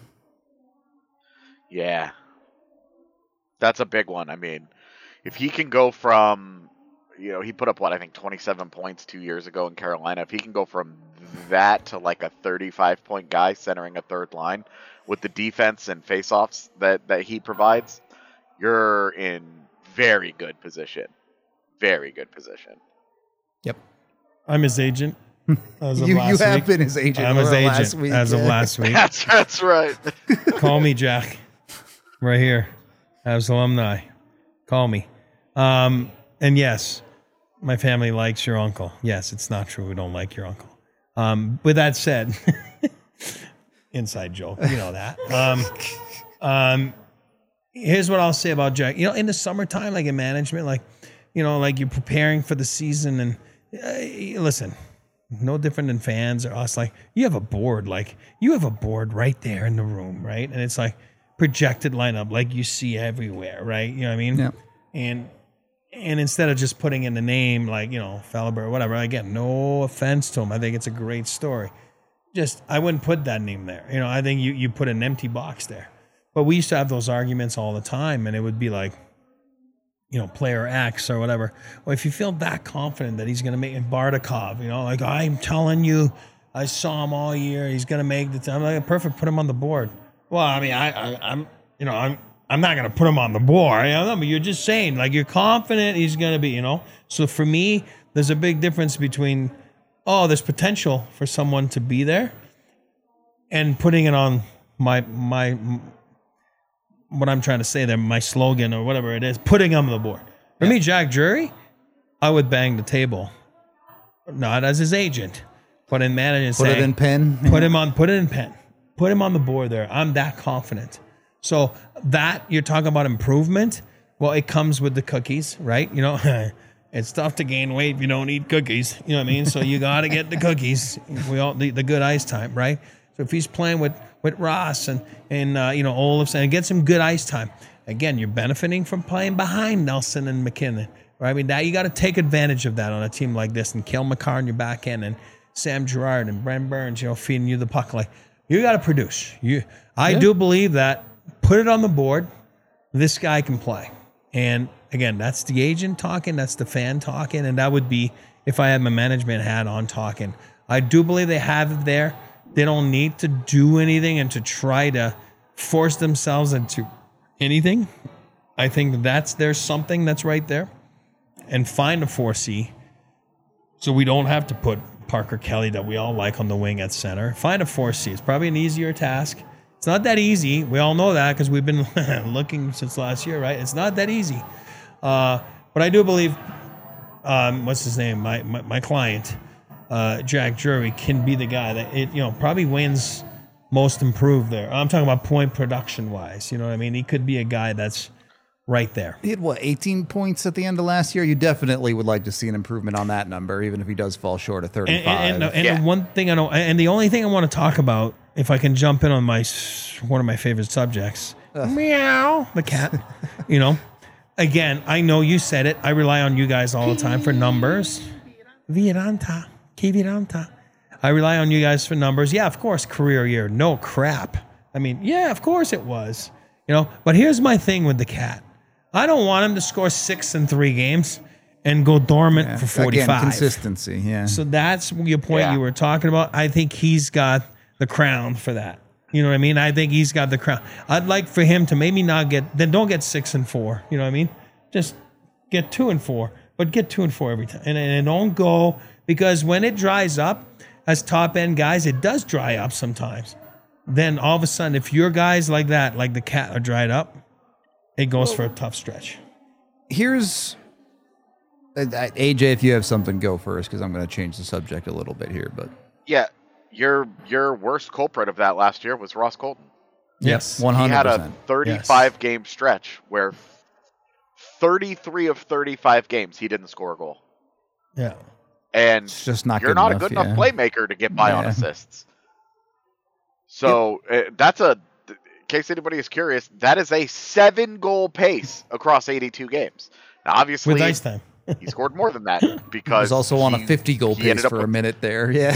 Yeah. That's a big one. I mean, if he can go from, you know, he put up, what, I think twenty-seven points two years ago in Carolina. If he can go from that to like a thirty-five point guy centering a third line with the defense and faceoffs that, that he provides, you're in very good position. Very good position. Yep. I'm his agent. As of you last you have week. been his agent. I'm his over agent last week, as of yeah. last week. That's, that's right. Call me, Jack. Right here. As alumni. Call me. Um, and yes, my family likes your uncle. Yes, it's not true. We don't like your uncle. Um, with that said, inside joke. You know that. Um, um, here's what I'll say about Jack. You know, in the summertime, like in management, like, you know, like you're preparing for the season and uh, listen, no different than fans or us. Like you have a board, like you have a board right there in the room, right? And it's like projected lineup, like you see everywhere, right? You know what I mean? Yeah. And and instead of just putting in the name, like, you know, Feliber or whatever, again, no offense to him. I think it's a great story. Just, I wouldn't put that name there. You know, I think you, you put an empty box there. But we used to have those arguments all the time, and it would be like, you know, player X or whatever. Well, if you feel that confident that he's going to make Bardakov, you know, like, I'm telling you, I saw him all year. He's going to make the time. Like, perfect, put him on the board. Well, I mean, I, I, I'm, you know, I'm, I'm not going to put him on the board. You know, but you're just saying, like, you're confident he's going to be, you know. So for me, there's a big difference between, oh, there's potential for someone to be there, and putting it on my my what I'm trying to say there, my slogan or whatever it is, putting him on the board. For me, Jack Drury, I would bang the table, not as his agent, but in management. Put saying, it in pen. Put him on. Put it in pen. Put him on the board there. I'm that confident. So that you're talking about improvement. Well, it comes with the cookies, right? You know, it's tough to gain weight if you don't eat cookies. You know what I mean? So you got to get the cookies. We all the, the good ice time, right? So if he's playing with with Ross and and uh, you know, Olofsson and get some good ice time, again, you're benefiting from playing behind Nelson and McKinnon, right? I mean, that you got to take advantage of that on a team like this, and Cale Makar in your back end, and Sam Girard and Brent Burns, you know, feeding you the puck. Like, you got to produce. You, I Yeah. do believe that. Put it on the board. This guy can play. And again, that's the agent talking. That's the fan talking. And that would be if I had my management hat on talking. I do believe they have it there. They don't need to do anything and to try to force themselves into anything. I think that's there's something that's right there. And find a four C so we don't have to put Parker Kelly that we all like on the wing at center. Find a four C. It's probably an easier task. It's not that easy. We all know that because we've been looking since last year, right? It's not that easy. Uh, but I do believe, um, what's his name? My my, my client, uh, Jack Drury, can be the guy that it you know probably wins most improved there. I'm talking about point production wise. You know what I mean? He could be a guy that's right there. He had, what, eighteen points at the end of last year? You definitely would like to see an improvement on that number, even if he does fall short of thirty-five. And, and, and Yeah. the one thing I know, and the only thing I want to talk about, if I can jump in on my one of my favorite subjects, meow, the cat. You know, again, I know you said it. I rely on you guys all the time for numbers. Viranta, que viranta. I rely on you guys for numbers. Yeah, of course, career year. No crap. I mean, yeah, of course it was. You know, but here's my thing with the cat. I don't want him to score six in three games and go dormant Yeah. for forty-five. Again, consistency, yeah. So that's your point Yeah. you were talking about. I think he's got the crown for that. You know what I mean? I think he's got the crown. I'd like for him to maybe not get, then don't get six and four. You know what I mean? Just get two and four, but get two and four every time. And, and don't go, because when it dries up as top end guys, it does dry up sometimes. Then all of a sudden, if your guys like that, like the cat are dried up, it goes for a tough stretch. Here's uh, uh, A J. If you have something, go first, because I'm going to change the subject a little bit here. But Yeah, your your worst culprit of that last year was Ross Colton. Yes. one He hundred had a percent. thirty-five game stretch where thirty-three of thirty-five games he didn't score a goal. Yeah. And It's just not you're good not enough, a good yeah. enough playmaker to get by on Yeah. assists. So uh, that's a case anybody is curious, that is a seven-goal pace across eighty-two games. Now, obviously, With ice time. he scored more than that He because was also on a he- fifty-goal he pace ended up for a with- minute there. Yeah.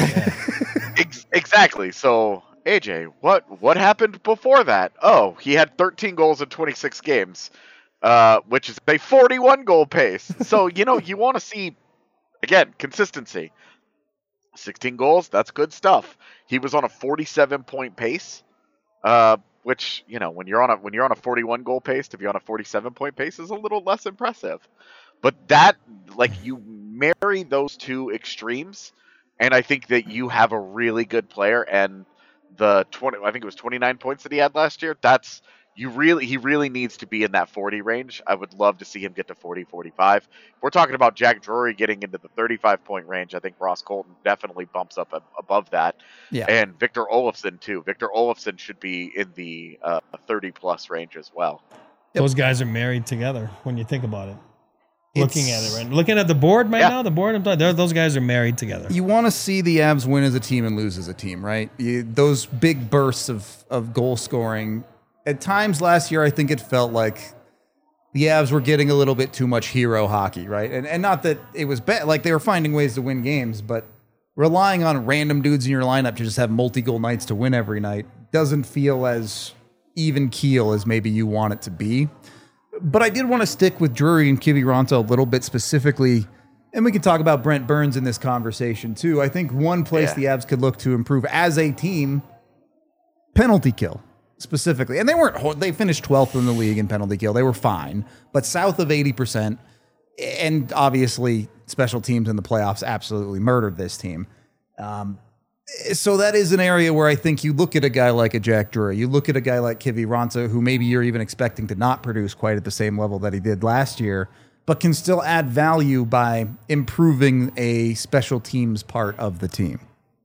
Ex- exactly. So, A J, what what happened before that? Oh, he had thirteen goals in twenty-six games, uh, which is a forty-one goal pace. So, you know, you want to see, again, consistency. sixteen goals, that's good stuff. He was on a forty-seven point pace, uh, which, you know, when you're on a when you're on a forty-one goal pace, to be on a forty-seven point pace is a little less impressive. But that, like, you marry those two extremes, and I think that you have a really good player. And the twenty, I think it was twenty-nine points that he had last year. That's you really, he really needs to be in that forty range. I would love to see him get to forty, forty-five. If we're talking about Jack Drury getting into the thirty-five point range, I think Ross Colton definitely bumps up ab- above that. Yeah. And Victor Olofsson too. Victor Olofsson should be in the uh, thirty plus range as well. Yep. Those guys are married together when you think about it. Looking at It's- it, right? Looking at the board right Yeah. now, the board, I'm talking, they're- those guys are married together. You want to see the Avs win as a team and lose as a team, right? You, those big bursts of, of goal scoring. At times last year, I think it felt like the Avs were getting a little bit too much hero hockey, right? And and not that it was bad, like they were finding ways to win games, but relying on random dudes in your lineup to just have multi-goal nights to win every night doesn't feel as even keel as maybe you want it to be. But I did want to stick with Drury and Kiviranta a little bit specifically, and we can talk about Brent Burns in this conversation too. I think one place Yeah. the Avs could look to improve as a team, penalty kill specifically. And they weren't, ho- they finished twelfth in the league in penalty kill. They were fine, but south of eighty percent. And obviously special teams in the playoffs absolutely murdered this team. Um, so that is an area where I think you look at a guy like a Jack Drury, you look at a guy like Kiviranta, who maybe you're even expecting to not produce quite at the same level that he did last year, but can still add value by improving a special teams part of the team.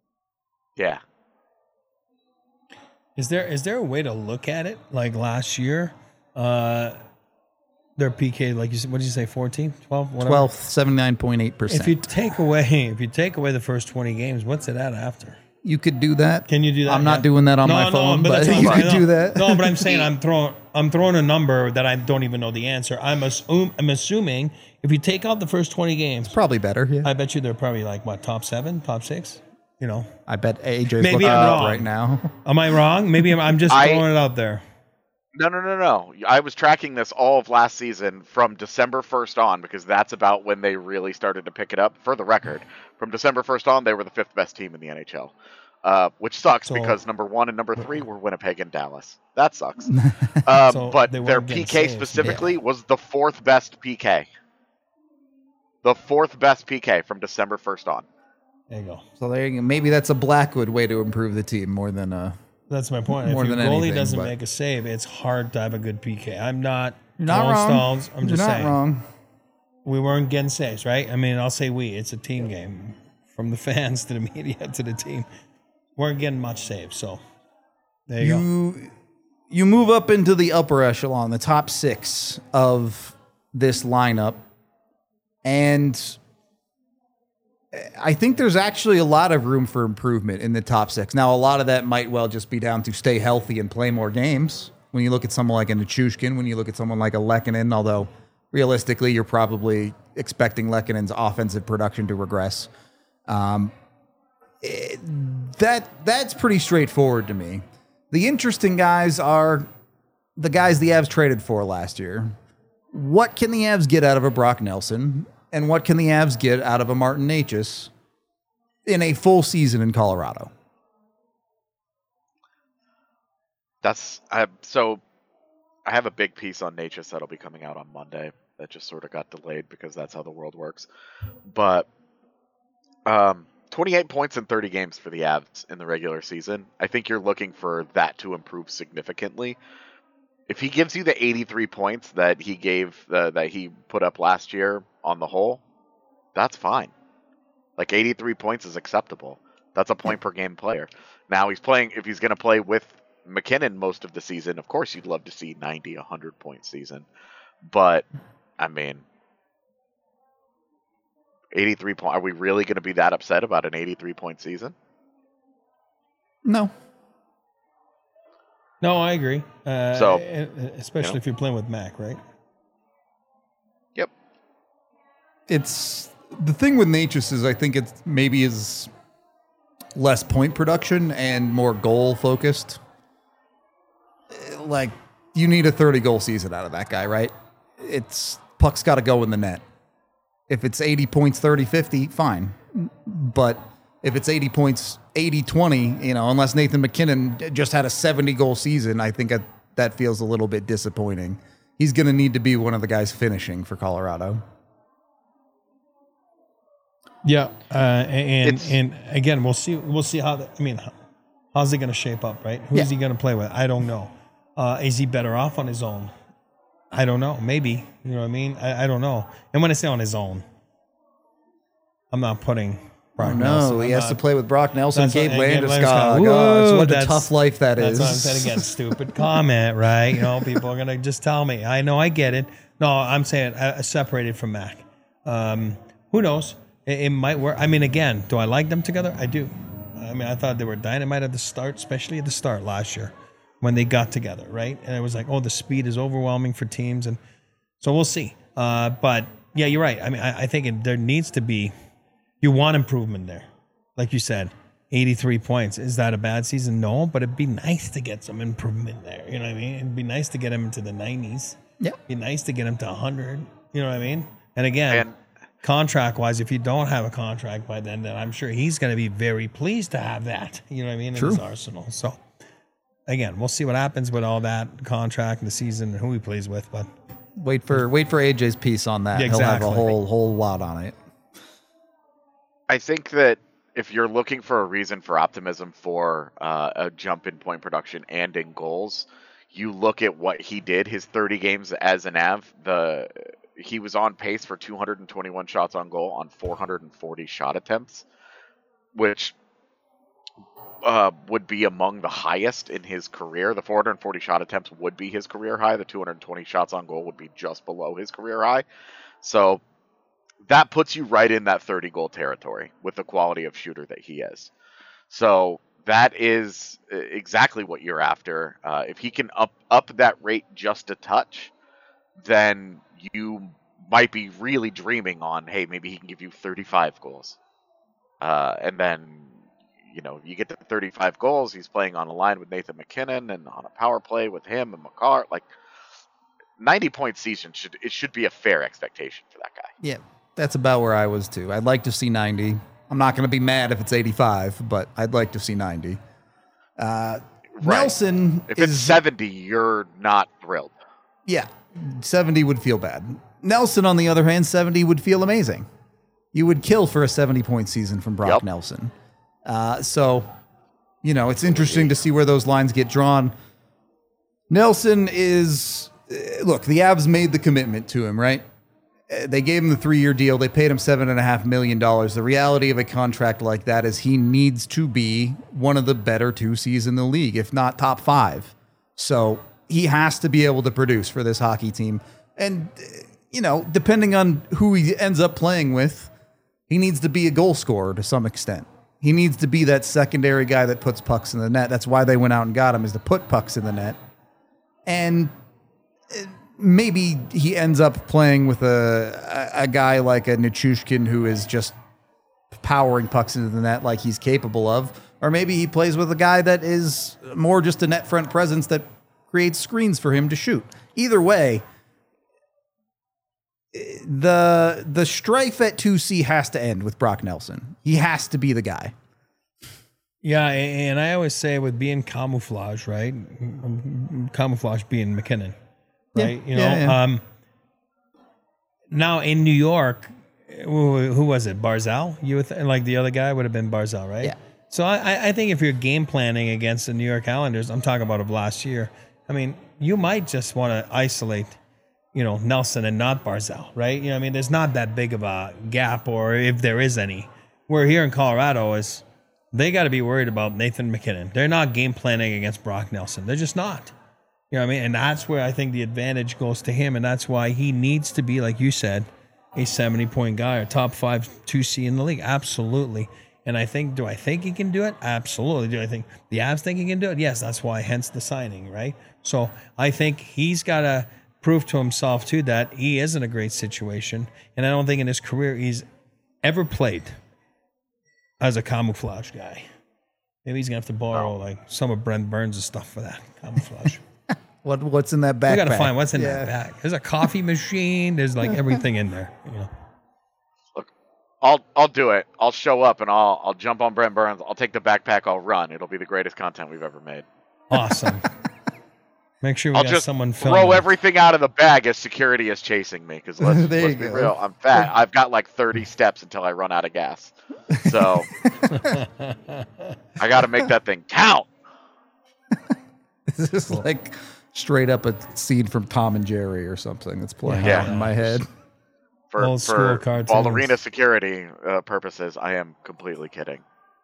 Yeah. Is there is there a way to look at it like last year? Uh, their P K, like you said, what did you say, fourteen, twelve, whatever? twelfth, seventy-nine point eight percent. If you take away if you take away the first twenty games, what's it at after? You could do that. Can you do that? I'm not Yeah. doing that on No, my no, phone, but but, that's what you I'm- could no, do that. No, but I'm saying I'm throwing I'm throwing a number that I don't even know the answer. I'm assume I'm assuming if you take out the first twenty games, Probably better. Yeah. I bet you they're probably like what, top seven, top six? You know, I bet A J's Maybe looking I'm it up wrong. right now. am I wrong? Maybe I'm, I'm just I- throwing it out there. No, no, no, no. I was tracking this all of last season from December first on because that's about when they really started to pick it up. For the record, from December first on, they were the fifth best team in the N H L, uh, which sucks So- because number one and number three were Winnipeg and Dallas. That sucks. Um, So but they their weren't getting P K saves. specifically was the fourth best P K. The fourth best P K from December first on. There you go. So there you go. Maybe that's a Blackwood way to improve the team more than a. That's my point. More if your than goalie anything, doesn't but- make a save, it's hard to have a good P K. I'm not You're not throwing wrong. stalls. I'm You're just not saying. wrong. We weren't getting saves, right? I mean, I'll say we. It's a team game. From the fans to the media to the team. Weren't getting much saves. So there you, go. You you move up into the upper echelon, the top six of this lineup, and I think there's actually a lot of room for improvement in the top six. Now, a lot of that might well just be down to stay healthy and play more games. When you look at someone like a Nichushkin, when you look at someone like a Lehkonen, although realistically, you're probably expecting Lehkonen's offensive production to regress. Um, it- that that's pretty straightforward to me. The interesting guys are the guys the Avs traded for last year. What can the Avs get out of a Brock Nelson? And what can the Avs get out of a Martin Necas in a full season in Colorado? That's I, so. I have a big piece on Natchez that'll be coming out on Monday. That just sort of got delayed because that's how the world works. But um, twenty-eight points in thirty games for the Avs in the regular season. I think you're looking for that to improve significantly. If he gives you the eighty-three points that he gave uh, that he put up last year on the whole, that's fine. Like eighty-three points is acceptable. That's a point per game player. Now he's playing. If he's going to play with McKinnon most of the season, of course you'd love to see ninety, one hundred point season. But I mean, eighty-three point. Are we really going to be that upset about an eighty-three point season? No. No, I agree. Uh, So, especially you know. if you're playing with Mac, right? Yep. It's the thing with Natchez is I think it's maybe is less point production and more goal focused. Like you need a thirty goal season out of that guy, right? It's puck's got to go in the net. If it's eighty points, thirty, fifty, fine. But if it's eighty points, eighty, twenty, you know, unless Nathan McKinnon just had a seventy goal season, I think that, that feels a little bit disappointing. He's going to need to be one of the guys finishing for Colorado. Yeah, uh, and It's- and again, we'll see. We'll see how. The, I mean, how, how's it going to shape up, right? Who's Yeah. he going to play with? I don't know. Uh, is he better off on his own? I don't know. Maybe. You know what I mean? I, I don't know. And when I say on his own, I'm not putting Brock Nelson. No, he I'm has not- to play with Brock Nelson, That's Gabe what- and Gabe Landeskog. Landeskog. Oh, it's Whoa, what a that's- tough life that That's is. what I'm saying again. Stupid comment, right? You know, people are gonna just tell me. I know, I get it. No, I'm saying uh, separated from Mac. Um, who knows? It, it might work. I mean, again, do I like them together? I do. I mean, I thought they were dynamite at the start, especially at the start last year when they got together, right? And it was like, oh, the speed is overwhelming for teams, and so we'll see. Uh, but yeah, you're right. I mean, I, I think it, there needs to be. You want improvement there, like you said. eighty-three points. Is that a bad season? No, but it'd be nice to get some improvement there. You know what I mean? It'd be nice to get him into the nineties. Yeah. It'd be nice to get him to one hundred. You know what I mean? And again, And- contract-wise, if you don't have a contract by then, then I'm sure he's going to be very pleased to have that. You know what I mean? In True. his arsenal. So, again, we'll see what happens with all that contract and the season and who he plays with. But Wait for wait for A J's piece on that. Yeah, He'll have a exactly. whole whole lot on it. I think that if you're looking for a reason for optimism for uh, a jump in point production and in goals, you look at what he did his thirty games as an A V. The he was on pace for two hundred twenty-one shots on goal on four hundred forty shot attempts, which uh, would be among the highest in his career. The four hundred forty shot attempts would be his career high. The two hundred twenty shots on goal would be just below his career high. So that puts you right in that thirty goal territory with the quality of shooter that he is. So that is exactly what you're after. Uh, if he can up up that rate just a touch, then you might be really dreaming on, hey, maybe he can give you thirty-five goals. Uh, and then, you know, you get to thirty-five goals, he's playing on a line with Nathan McKinnon and on a power play with him and Makar. Like, ninety point season should it should be a fair expectation for that guy. Yeah, that's about where I was too. I'd like to see ninety. I'm not going to be mad if it's eighty-five, but I'd like to see ninety. Uh, Right. Nelson If is it's seventy, you're not thrilled. yeah, seventy would feel bad. Nelson, on the other hand, seventy would feel amazing. You would kill for a seventy point season from Brock Yep. Nelson. Uh, so, you know, it's interesting to see where those lines get drawn. Nelson is, uh, look, the Avs made the commitment to him, right? Uh, They gave him the three-year deal. They paid him seven and a half million dollars. The reality of a contract like that is he needs to be one of the better two C's in the league, if not top five. So he has to be able to produce for this hockey team. And, uh, you know, depending on who he ends up playing with, he needs to be a goal scorer to some extent. He needs to be that secondary guy that puts pucks in the net. That's why they went out and got him, is to put pucks in the net. And maybe he ends up playing with a a guy like a Nichushkin who is just powering pucks into the net like he's capable of. Or maybe he plays with a guy that is more just a net front presence that creates screens for him to shoot. Either way, the the strife at two C has to end with Brock Nelson. He has to be the guy. yeah, and I always say with being camouflage, right? Camouflage being McKinnon, right? Yeah, You know, yeah, yeah. um, now in New York, who, who was it? Barzal? You would th- like the other guy would have been Barzal, right? Yeah. So I, I think if you're game planning against the New York Islanders, I'm talking about of last year. I mean, you might just want to isolate, you know, Nelson and not Barzal, right? You know, I mean, there's not that big of a gap, or if there is any. Where here in Colorado is, they got to be worried about Nathan McKinnon. They're not game planning against Brock Nelson. They're just not. You know what I mean? And that's where I think the advantage goes to him, and that's why he needs to be, like you said, a seventy-point guy, or top five two C in the league. Absolutely. And I think, do I think he can do it? Absolutely. Do I think the Avs think he can do it? Yes, that's why, hence the signing, right? So I think he's got to prove to himself, too, that he is in a great situation. And I don't think in his career he's ever played as a camouflage guy. Maybe he's going to have to borrow, like, some of Brent Burns' stuff for that camouflage. What What's in that backpack? We got to find what's in Yeah. that bag. There's a coffee machine. There's, like, everything in there, you know. I'll I'll do it. I'll show up and I'll I'll jump on Brent Burns. I'll take the backpack. I'll run. It'll be the greatest content we've ever made. Awesome. Make sure we I'll got just someone throw filming. everything out of the bag as security is chasing me. Because let's, There let's you be go. real, I'm fat. I've got like thirty steps until I run out of gas. So I got to make that thing count. This is like straight up a scene from Tom and Jerry or something that's playing Yeah. out in my head. For, Old school for cartoons. ballerina security uh, purposes, I am completely kidding.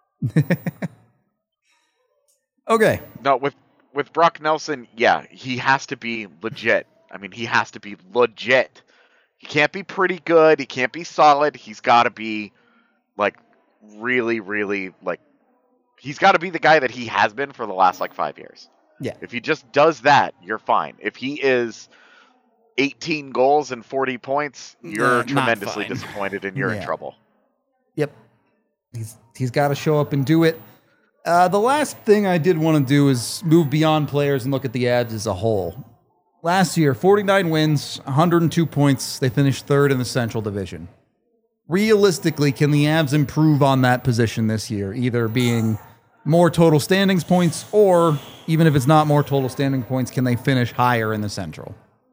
Okay. No, with with Brock Nelson, yeah, he has to be legit. I mean, he has to be legit. He can't be pretty good. He can't be solid. He's got to be like really, really like he's got to be the guy that he has been for the last like five years. Yeah. If he just does that, you're fine. If he is eighteen goals and forty points, you're Uh, not tremendously fine. disappointed and you're Yeah. in trouble. Yep. He's he's got to show up and do it. Uh, the last thing I did want to do is move beyond players and look at the Avs as a whole. Last year, forty-nine wins, one hundred two points. They finished third in the Central Division. Realistically, can the Avs improve on that position this year, either being more total standings points or, even if it's not more total standing points, can they finish higher in the Central?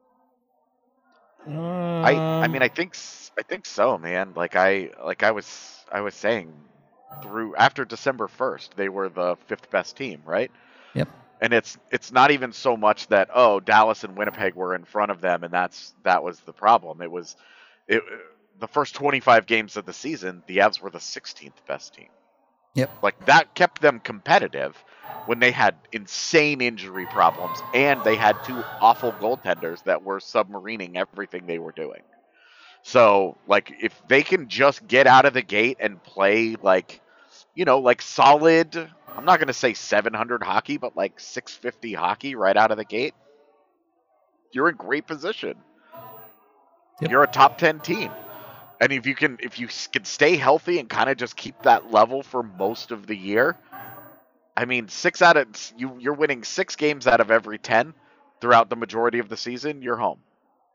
I I Um, mean I think s- I think so, man. Like I like I was I was saying through after December first, they were the fifth best team, right? Yep. And it's it's not even so much that oh Dallas and Winnipeg were in front of them and that's that was the problem. It was it the first twenty-five games of the season, the Avs were the sixteenth best team. Yep. Like that kept them competitive when they had insane injury problems and they had two awful goaltenders that were submarining everything they were doing. So, like, if they can just get out of the gate and play, like, you know, like solid, I'm not going to say seven hundred hockey, but like six fifty hockey right out of the gate, you're in great position. Yep. You're a top ten team. And if you can, if you s- can stay healthy and kind of just keep that level for most of the year, I mean, six out of you, you're winning six games out of every ten throughout the majority of the season. You're home.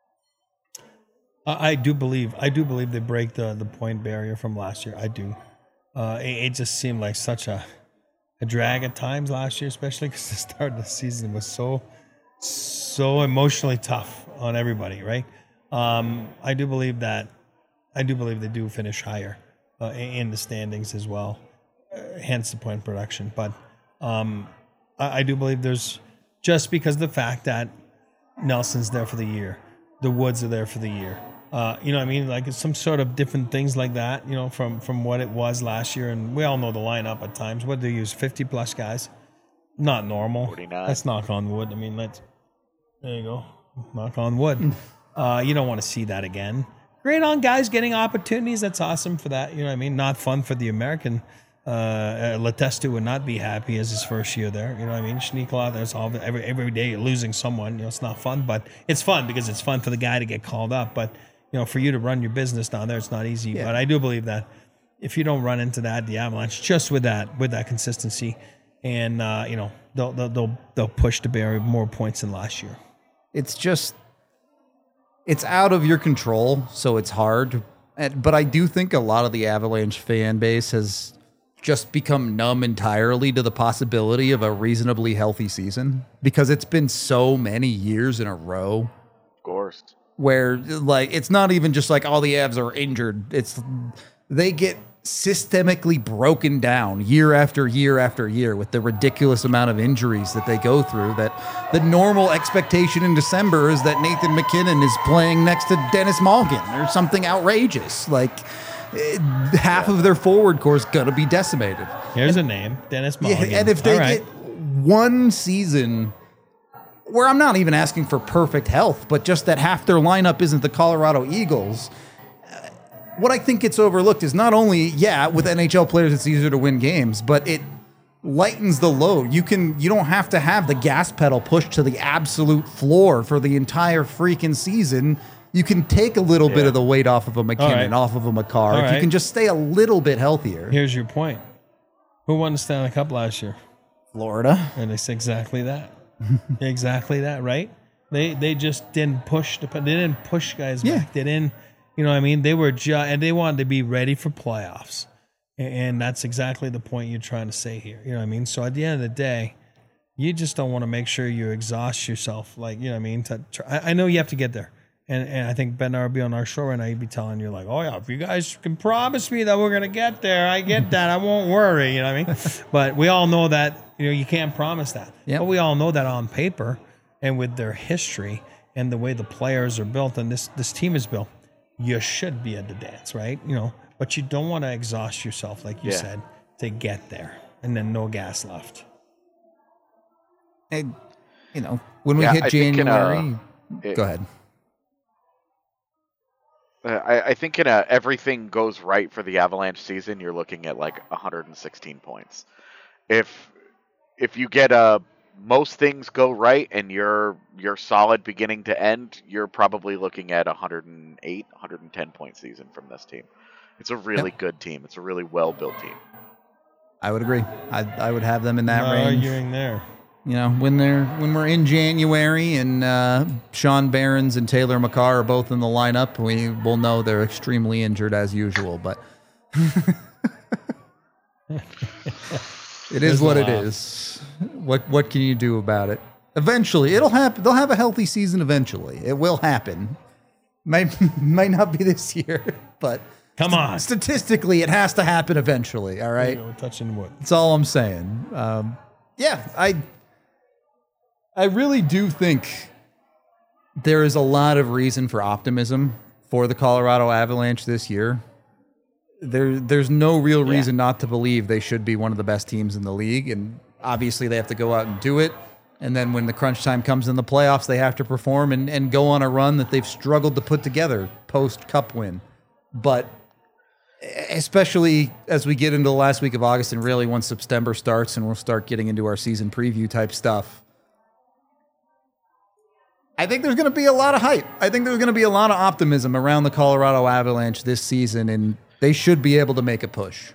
I I do believe I do believe they break the the point barrier from last year. I do. Uh, it, it just seemed like such a a drag at times last year, especially because the start of the season was so so emotionally tough on everybody. Right. Um, I do believe that. I do believe they do finish higher uh, in in the standings as well. Uh, hence the point production. But um, I, I do believe there's just because of the fact that Nelson's there for the year, the Woods are there for the year. Uh, you know what I mean? Like it's some sort of different things like that, you know, from, from what it was last year. And we all know the lineup at times. What do they use? fifty plus guys? Not normal. forty-nine. Let's knock on wood. I mean, let's, there you go. Knock on wood. uh, you don't want to see that again. Great on guys getting opportunities. That's awesome for that. You know what I mean? Not fun for the American. Uh, uh, Letestu would not be happy as his first year there. You know what I mean? Schneekla, there's all every every day you're losing someone. You know, it's not fun, but it's fun because it's fun for the guy to get called up. But you know, for you to run your business down there, it's not easy. Yeah. But I do believe that if you don't run into that, the Avalanche, just with that with that consistency, and uh, you know, they'll, they'll they'll they'll push to bury more points than last year. It's just, it's out of your control, so it's hard. And, but I do think a lot of the Avalanche fan base has just become numb entirely to the possibility of a reasonably healthy season because it's been so many years in a row Of course. where like it's not even just like all the Avs are injured. It's they get systemically broken down year after year after year with the ridiculous amount of injuries that they go through, that the normal expectation in December is that Nathan McKinnon is playing next to Dennis Malgin or something outrageous. Like eh, half of their forward core is gonna be decimated. Here's a name, Dennis Yeah, Mulligan. and if they All right. get one season where I'm not even asking for perfect health, but just that half their lineup isn't the Colorado Eagles, uh, what I think gets overlooked is not only, yeah, with N H L players, it's easier to win games, but it lightens the load. You can, you don't have to have the gas pedal pushed to the absolute floor for the entire freaking season. You can take a little Yeah. bit of the weight off of a McKinnon, right. off of a McCarr. All If you right. can just stay a little bit healthier. Here's your point. Who won the Stanley Cup last year? Florida. And it's exactly that. exactly that, right? They they just didn't push the they didn't push guys Yeah. back. They didn't, you know what I mean? They were just and they wanted to be ready for playoffs. And, and that's exactly the point you're trying to say here. You know what I mean? So at the end of the day, you just don't want to make sure you exhaust yourself. Like, you know what I mean? To, to, I, I know you have to get there. And, and I think Ben would be on our show right now. He'd be telling you like, oh yeah, if you guys can promise me that we're gonna get there, I get that. I won't worry. You know what I mean? But we all know that you know you can't promise that. Yep. But we all know that on paper and with their history and the way the players are built and this this team is built, you should be at the dance, right? You know, but you don't want to exhaust yourself, like you Yeah. said, to get there and then no gas left. And, you know, when we Yeah, hit I think in, uh, January, it- go ahead. Uh, I, I think in a everything goes right for the Avalanche season, you're looking at like one hundred sixteen points. If if you get a most things go right and you're you're solid beginning to end, you're probably looking at one hundred eight, one hundred ten point season from this team. It's a really Yep. good team. It's a really well built team. I would agree. I I would have them in that No range. arguing there. You know, when they're when we're in January and uh, Sean Barons and Taylor McCarr are both in the lineup, we will know they're extremely injured as usual. But it is There's what a it laugh. is. What what can you do about it? Eventually, it'll happen. They'll have a healthy season. Eventually, it will happen. Might might not be this year, but Come on. statistically, it has to happen eventually. All right. You know, touching wood. That's all I'm saying. Um, yeah, I I really do think there is a lot of reason for optimism for the Colorado Avalanche this year. There, there's no real reason not to believe they should be one of the best teams in the league, and obviously they have to go out and do it. And then when the crunch time comes in the playoffs, they have to perform and, and go on a run that they've struggled to put together post-Cup win. But especially as we get into the last week of August and really once September starts and we'll start getting into our season preview type stuff, I think there's going to be a lot of hype. I think there's going to be a lot of optimism around the Colorado Avalanche this season, and they should be able to make a push.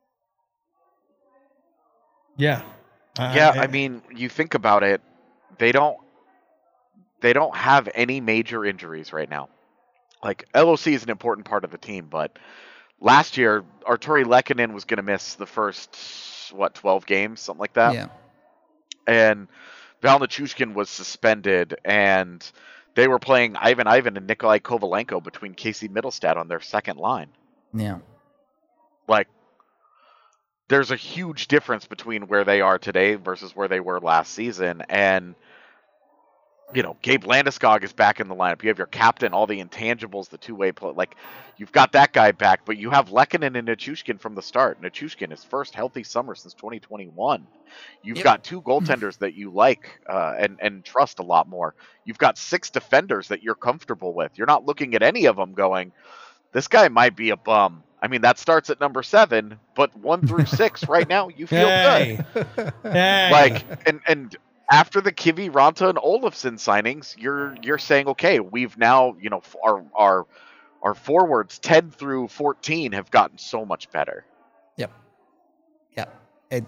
Yeah. I- Yeah, I- I mean, you think about it, they don't they don't have any major injuries right now. Like L O C is an important part of the team, but last year Arturi Lehkonen was going to miss the first what twelve games, something like that. Yeah. And Val Nichushkin was suspended, and they were playing Ivan Ivan and Nikolai Kovalenko between Casey Middlestad on their second line. Yeah. Like, there's a huge difference between where they are today versus where they were last season. And, you know, Gabe Landeskog is back in the lineup. You have your captain, all the intangibles, the two-way play. Like, you've got that guy back, but you have Lehkonen and Nichushkin from the start. Nichushkin, his first healthy summer since twenty twenty-one. You've Yep. got two goaltenders that you like uh, and, and trust a lot more. You've got six defenders that you're comfortable with. You're not looking at any of them going, this guy might be a bum. I mean, that starts at number seven, but one through six right now, you feel Hey. good. Hey. Like, and and after the Kivi, Ranta, and Olofsson signings, you're you're saying, okay, we've now, you know, our our our forwards ten through fourteen have gotten so much better. Yep. Yep. It,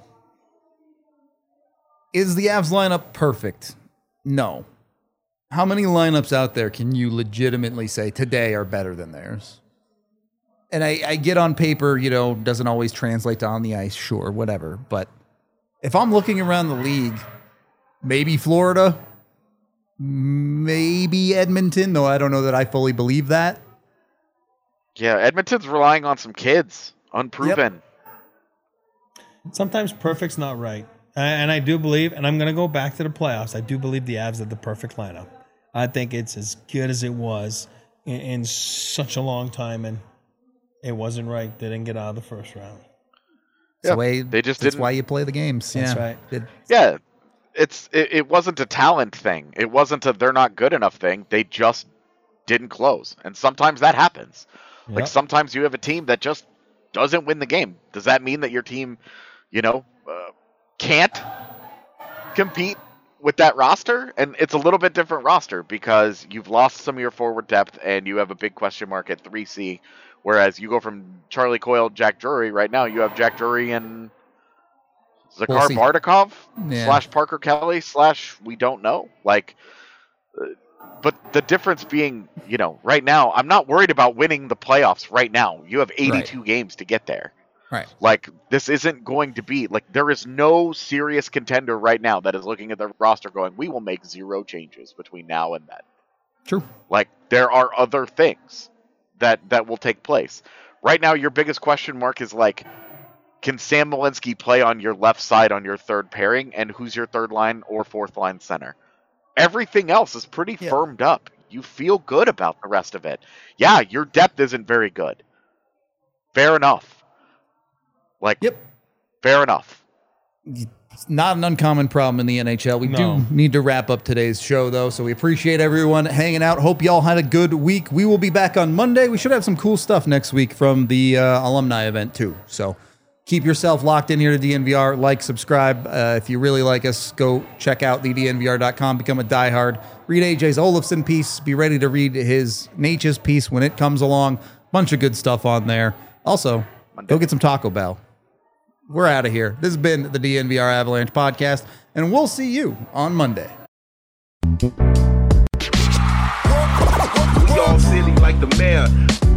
is the Avs lineup perfect? No. How many lineups out there can you legitimately say today are better than theirs? And I, I get on paper, you know, doesn't always translate to on the ice, sure, whatever. But if I'm looking around the league, maybe Florida, maybe Edmonton, though I don't know that I fully believe that. Yeah, Edmonton's relying on some kids, unproven. Sometimes perfect's not right. A- And I do believe, and I'm going to go back to the playoffs, I do believe the Avs had the perfect lineup. I think it's as good as it was in, in such a long time, and it wasn't right. They didn't get out of the first round. It's Yeah, the way, they just that's didn't- why you play the games. That's yeah. right. It- Yeah, it's it, it wasn't a talent thing. It wasn't a they're not good enough thing. They just didn't close, and sometimes that happens. Yep. Like sometimes you have a team that just doesn't win the game. Does that mean that your team, you know, uh, can't compete with that roster? And it's a little bit different roster because you've lost some of your forward depth and you have a big question mark at three C. Whereas you go from Charlie Coyle, Jack Drury. Right now you have Jack Drury and Zakhar We'll see. Bardakov Yeah. slash Parker Kelly slash we don't know. Like, uh, but the difference being, you know, right now I'm not worried about winning the playoffs right now. You have eighty-two Right. games to get there. Right. Like, this isn't going to be like there is no serious contender right now that is looking at the roster going, we will make zero changes between now and then. True. Like, there are other things that that will take place. Right now, your biggest question mark is like, can Sam Malinsky play on your left side on your third pairing, and who's your third line or fourth line center? Everything else is pretty Yeah. firmed up. You feel good about the rest of it. Yeah, your depth isn't very good. Fair enough. Like, Yep. fair enough. It's not an uncommon problem in the N H L. We No. do need to wrap up today's show, though, so we appreciate everyone hanging out. Hope y'all had a good week. We will be back on Monday. We should have some cool stuff next week from the uh, alumni event, too. So keep yourself locked in here to D N V R. Like, subscribe. Uh, if you really like us, go check out the D N V R dot com. Become a diehard. Read A J's Olofsson piece. Be ready to read his Natchez piece when it comes along. Bunch of good stuff on there. Also, go get some Taco Bell. We're out of here. This has been the D N V R Avalanche podcast, and we'll see you on Monday. We all silly like the mayor.